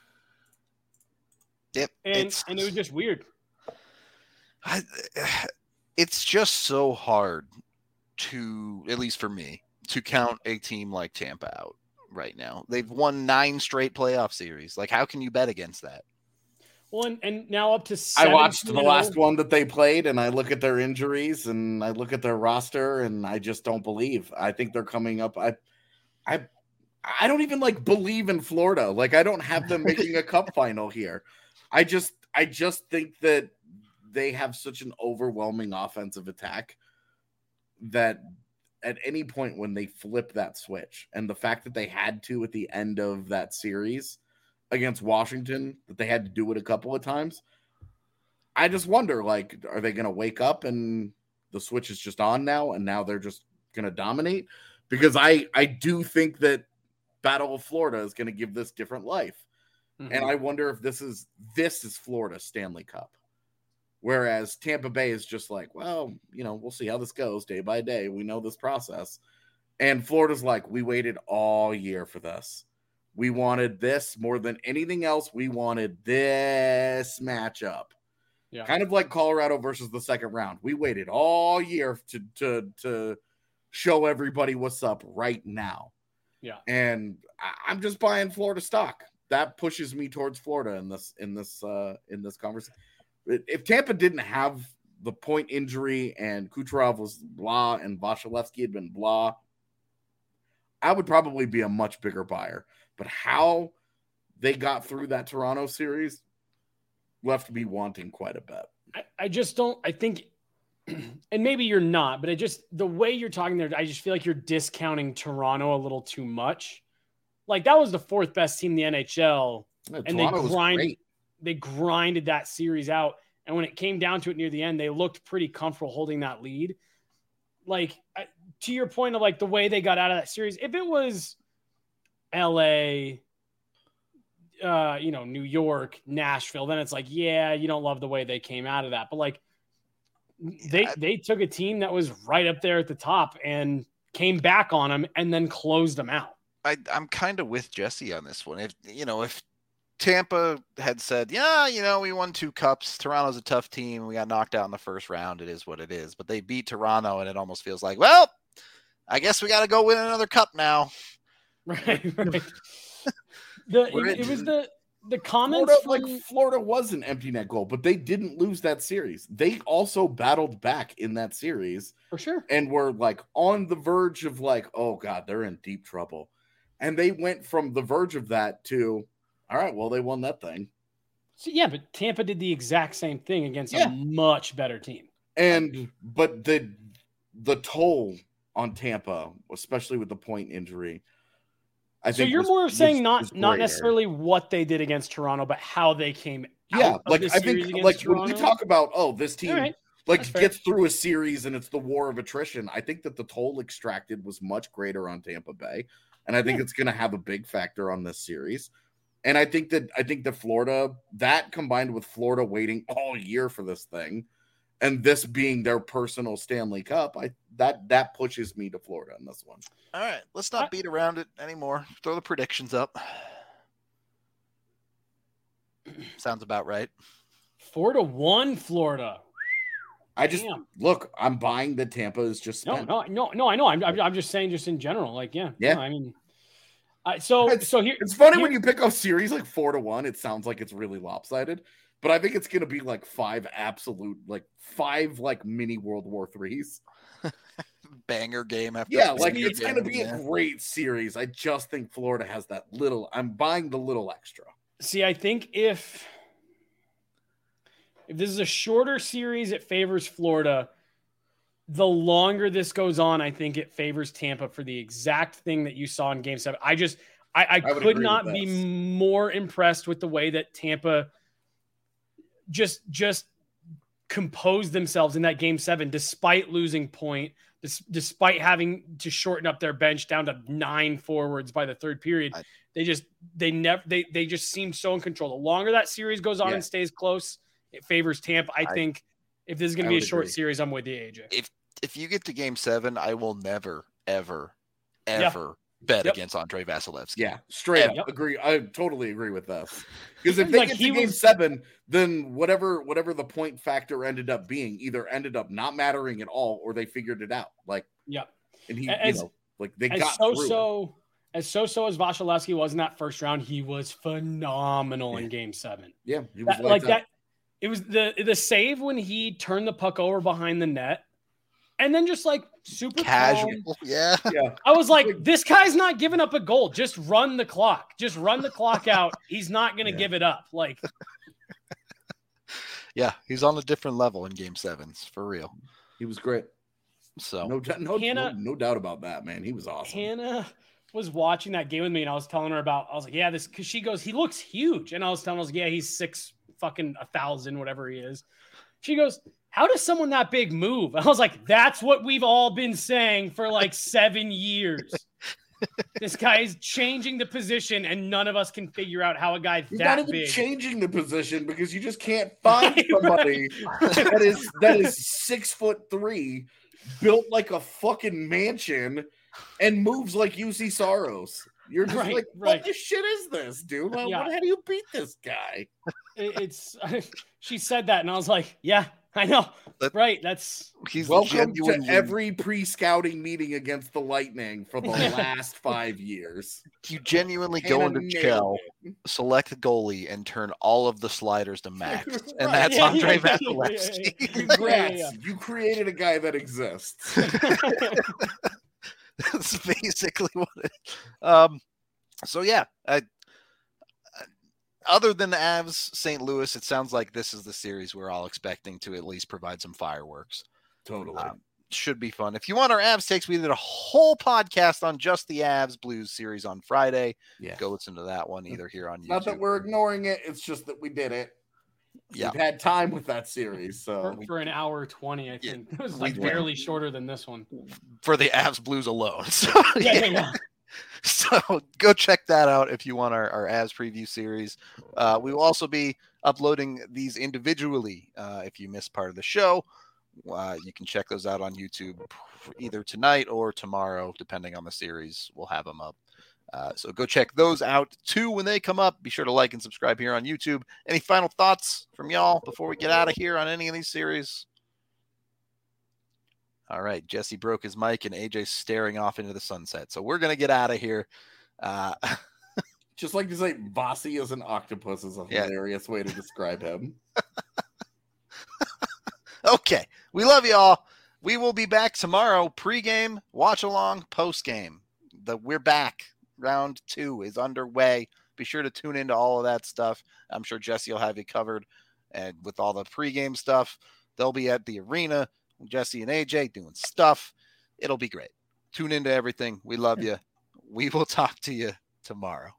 S4: Yep,
S2: and it was just weird.
S4: It's just so hard to, at least for me, to count a team like Tampa out right now. They've won 9 straight playoff series. Like, how can you bet against that?
S2: Well, and now up to 7-0.
S3: I watched the last one that they played, and I look at their injuries, and I look at their roster, and I just don't believe. I think they're coming up. I don't even like believe in Florida. Like, I don't have them making a cup final here. I just think that they have such an overwhelming offensive attack that at any point when they flip that switch, and the fact that they had to at the end of that series against Washington, that they had to do it a couple of times, I just wonder, like, are they going to wake up and the switch is just on now, and now they're just going to dominate? Because I do think that Battle of Florida is going to give this different life. Mm-hmm. And I wonder if this is Florida's Stanley Cup. Whereas Tampa Bay is just like, well, we'll see how this goes day by day. We know this process. And Florida's like, we waited all year for this. We wanted this more than anything else. We wanted this matchup. Yeah. Kind of like Colorado versus the second round. We waited all year to show everybody what's up right now.
S2: Yeah.
S3: And I'm just buying Florida stock. That pushes me towards Florida in this conversation. If Tampa didn't have the point injury and Kucherov was blah and Vasilevsky had been blah, I would probably be a much bigger buyer. But how they got through that Toronto series left me wanting quite a bit.
S2: I just don't, I think, and maybe you're not, but the way you're talking there, I just feel like you're discounting Toronto a little too much. Like that was the 4th best team in the NHL.
S3: Yeah,
S2: and they grinded that series out. And when it came down to it near the end, they looked pretty comfortable holding that lead. Like to your point of like the way they got out of that series, if it was LA, New York, Nashville, then it's like, yeah, you don't love the way they came out of that. But like they took a team that was right up there at the top and came back on them and then closed them out.
S4: I'm kind of with Jesse on this one. If Tampa had said, yeah, we won 2 cups. Toronto's a tough team. We got knocked out in the first round. It is what it is. But they beat Toronto, and it almost feels like, well, I guess we got to go win another cup now.
S2: Right. It was the comments.
S3: Florida was an empty net goal, but they didn't lose that series. They also battled back in that series.
S2: For sure.
S3: And were like on the verge of like, oh God, they're in deep trouble. And they went from the verge of that to, all right, well, they won that thing.
S2: So, yeah, but Tampa did the exact same thing against a much better team.
S3: But the toll on Tampa, especially with the point injury, I think. So
S2: you're more saying not necessarily what they did against Toronto, but how they came out of the series against Toronto?
S3: When we talk about, this team gets through a series and it's the war of attrition, I think that the toll extracted was much greater on Tampa Bay. And I think it's going to have a big factor on this series. And I think that Florida, that combined with Florida waiting all year for this thing, and this being their personal Stanley Cup, that pushes me to Florida in this one.
S4: All right, let's not beat around it anymore. Throw the predictions up. Sounds about right.
S2: 4-1 Florida.
S3: Look, I'm buying that Tampa is just spent.
S2: No, I know. I'm just saying, just in general, like, yeah.
S3: No,
S2: I mean, So here
S3: it's funny when you pick a series like 4-1, it sounds like it's really lopsided, but I think it's going to be like 5 mini World War IIIs.
S4: Banger game after
S3: it's going to be a great series. I just think Florida has that little. I'm buying the little extra.
S2: See, I think if this is a shorter series, it favors Florida. The longer this goes on, I think it favors Tampa for the exact thing that you saw in Game 7. I could not be more impressed with the way that Tampa just composed themselves in that Game 7, despite losing point, despite having to shorten up their bench down to 9 forwards by the third period. They just seem so in control. The longer that series goes on and stays close, it favors Tampa. I think if this is going to be a short series, I'm with you, AJ.
S4: If you get to Game 7, I will never, ever bet against Andrei Vasilevsky.
S3: Yeah, straight up agree. I totally agree with this. Because if they get to Game 7, then whatever the point factor ended up being either ended up not mattering at all, or they figured it out. And he, they got through it.
S2: As so-so as Vasilevsky was in that first round, he was phenomenal in Game 7.
S3: Yeah, he was
S2: like that. It was the save when he turned the puck over behind the net. And then just like super
S4: casual.
S2: Calm.
S3: Yeah.
S2: I was like, this guy's not giving up a goal. Just run the clock. Just run the clock out. He's not going to give it up.
S4: Yeah, he's on a different level in Game 7s, for real.
S3: He was great.
S4: So
S3: no doubt about that, man. He was awesome.
S2: Hannah was watching that game with me, and I was telling her I was like, yeah, this, because she goes, he looks huge. And I was telling her, yeah, he's 6,100, whatever he is. She goes, how does someone that big move? I was like, that's what we've all been saying for 7 years. This guy is changing the position, and none of us can figure out how a guy
S3: He's
S2: that
S3: not even
S2: big
S3: changing the position, because you just can't find somebody that is 6'3", built like a fucking mansion, and moves like UC Saros. You're just what the shit is this, dude? How do you beat this guy?
S2: She said that, and I was like, yeah, I know.
S3: He's welcome to every pre-scouting meeting against the Lightning for the last 5 years.
S4: You genuinely go into Chell, select the goalie, and turn all of the sliders to max. And that's Andrei Vasilevsky.
S3: Congrats. You created a guy that exists.
S4: That's basically what it is. So yeah, other than the Avs St. Louis, it sounds like this is the series we're all expecting to at least provide some fireworks.
S3: Totally.
S4: Should be fun. If you want our Avs takes, we did a whole podcast on just the Avs Blues series on Friday. Yeah. Go listen to that one either here on YouTube.
S3: Not that we're ignoring it. It's just that we did it. Yeah. We've had time with that series. So
S2: for an hour 20, I think. It was barely shorter than this one.
S4: For the Avs Blues alone. So, yeah. So go check that out if you want our Avs preview series. We will also be uploading these individually. If you missed part of the show, you can check those out on YouTube either tonight or tomorrow, depending on the series. We'll have them up. So go check those out too when they come up. Be sure to like and subscribe here on YouTube. Any final thoughts from y'all before we get out of here on any of these series? All right, Jesse broke his mic and AJ's staring off into the sunset. So we're going to get out of here.
S3: Just like to say Vasi as an octopus is a hilarious way to describe him.
S4: Okay, we love y'all. We will be back tomorrow, pregame, watch along, postgame. We're back. Round 2 is underway. Be sure to tune into all of that stuff. I'm sure Jesse will have you covered. And with all the pregame stuff, they'll be at the arena. Jesse and AJ doing stuff. It'll be great. Tune into everything. We love you. We will talk to you tomorrow.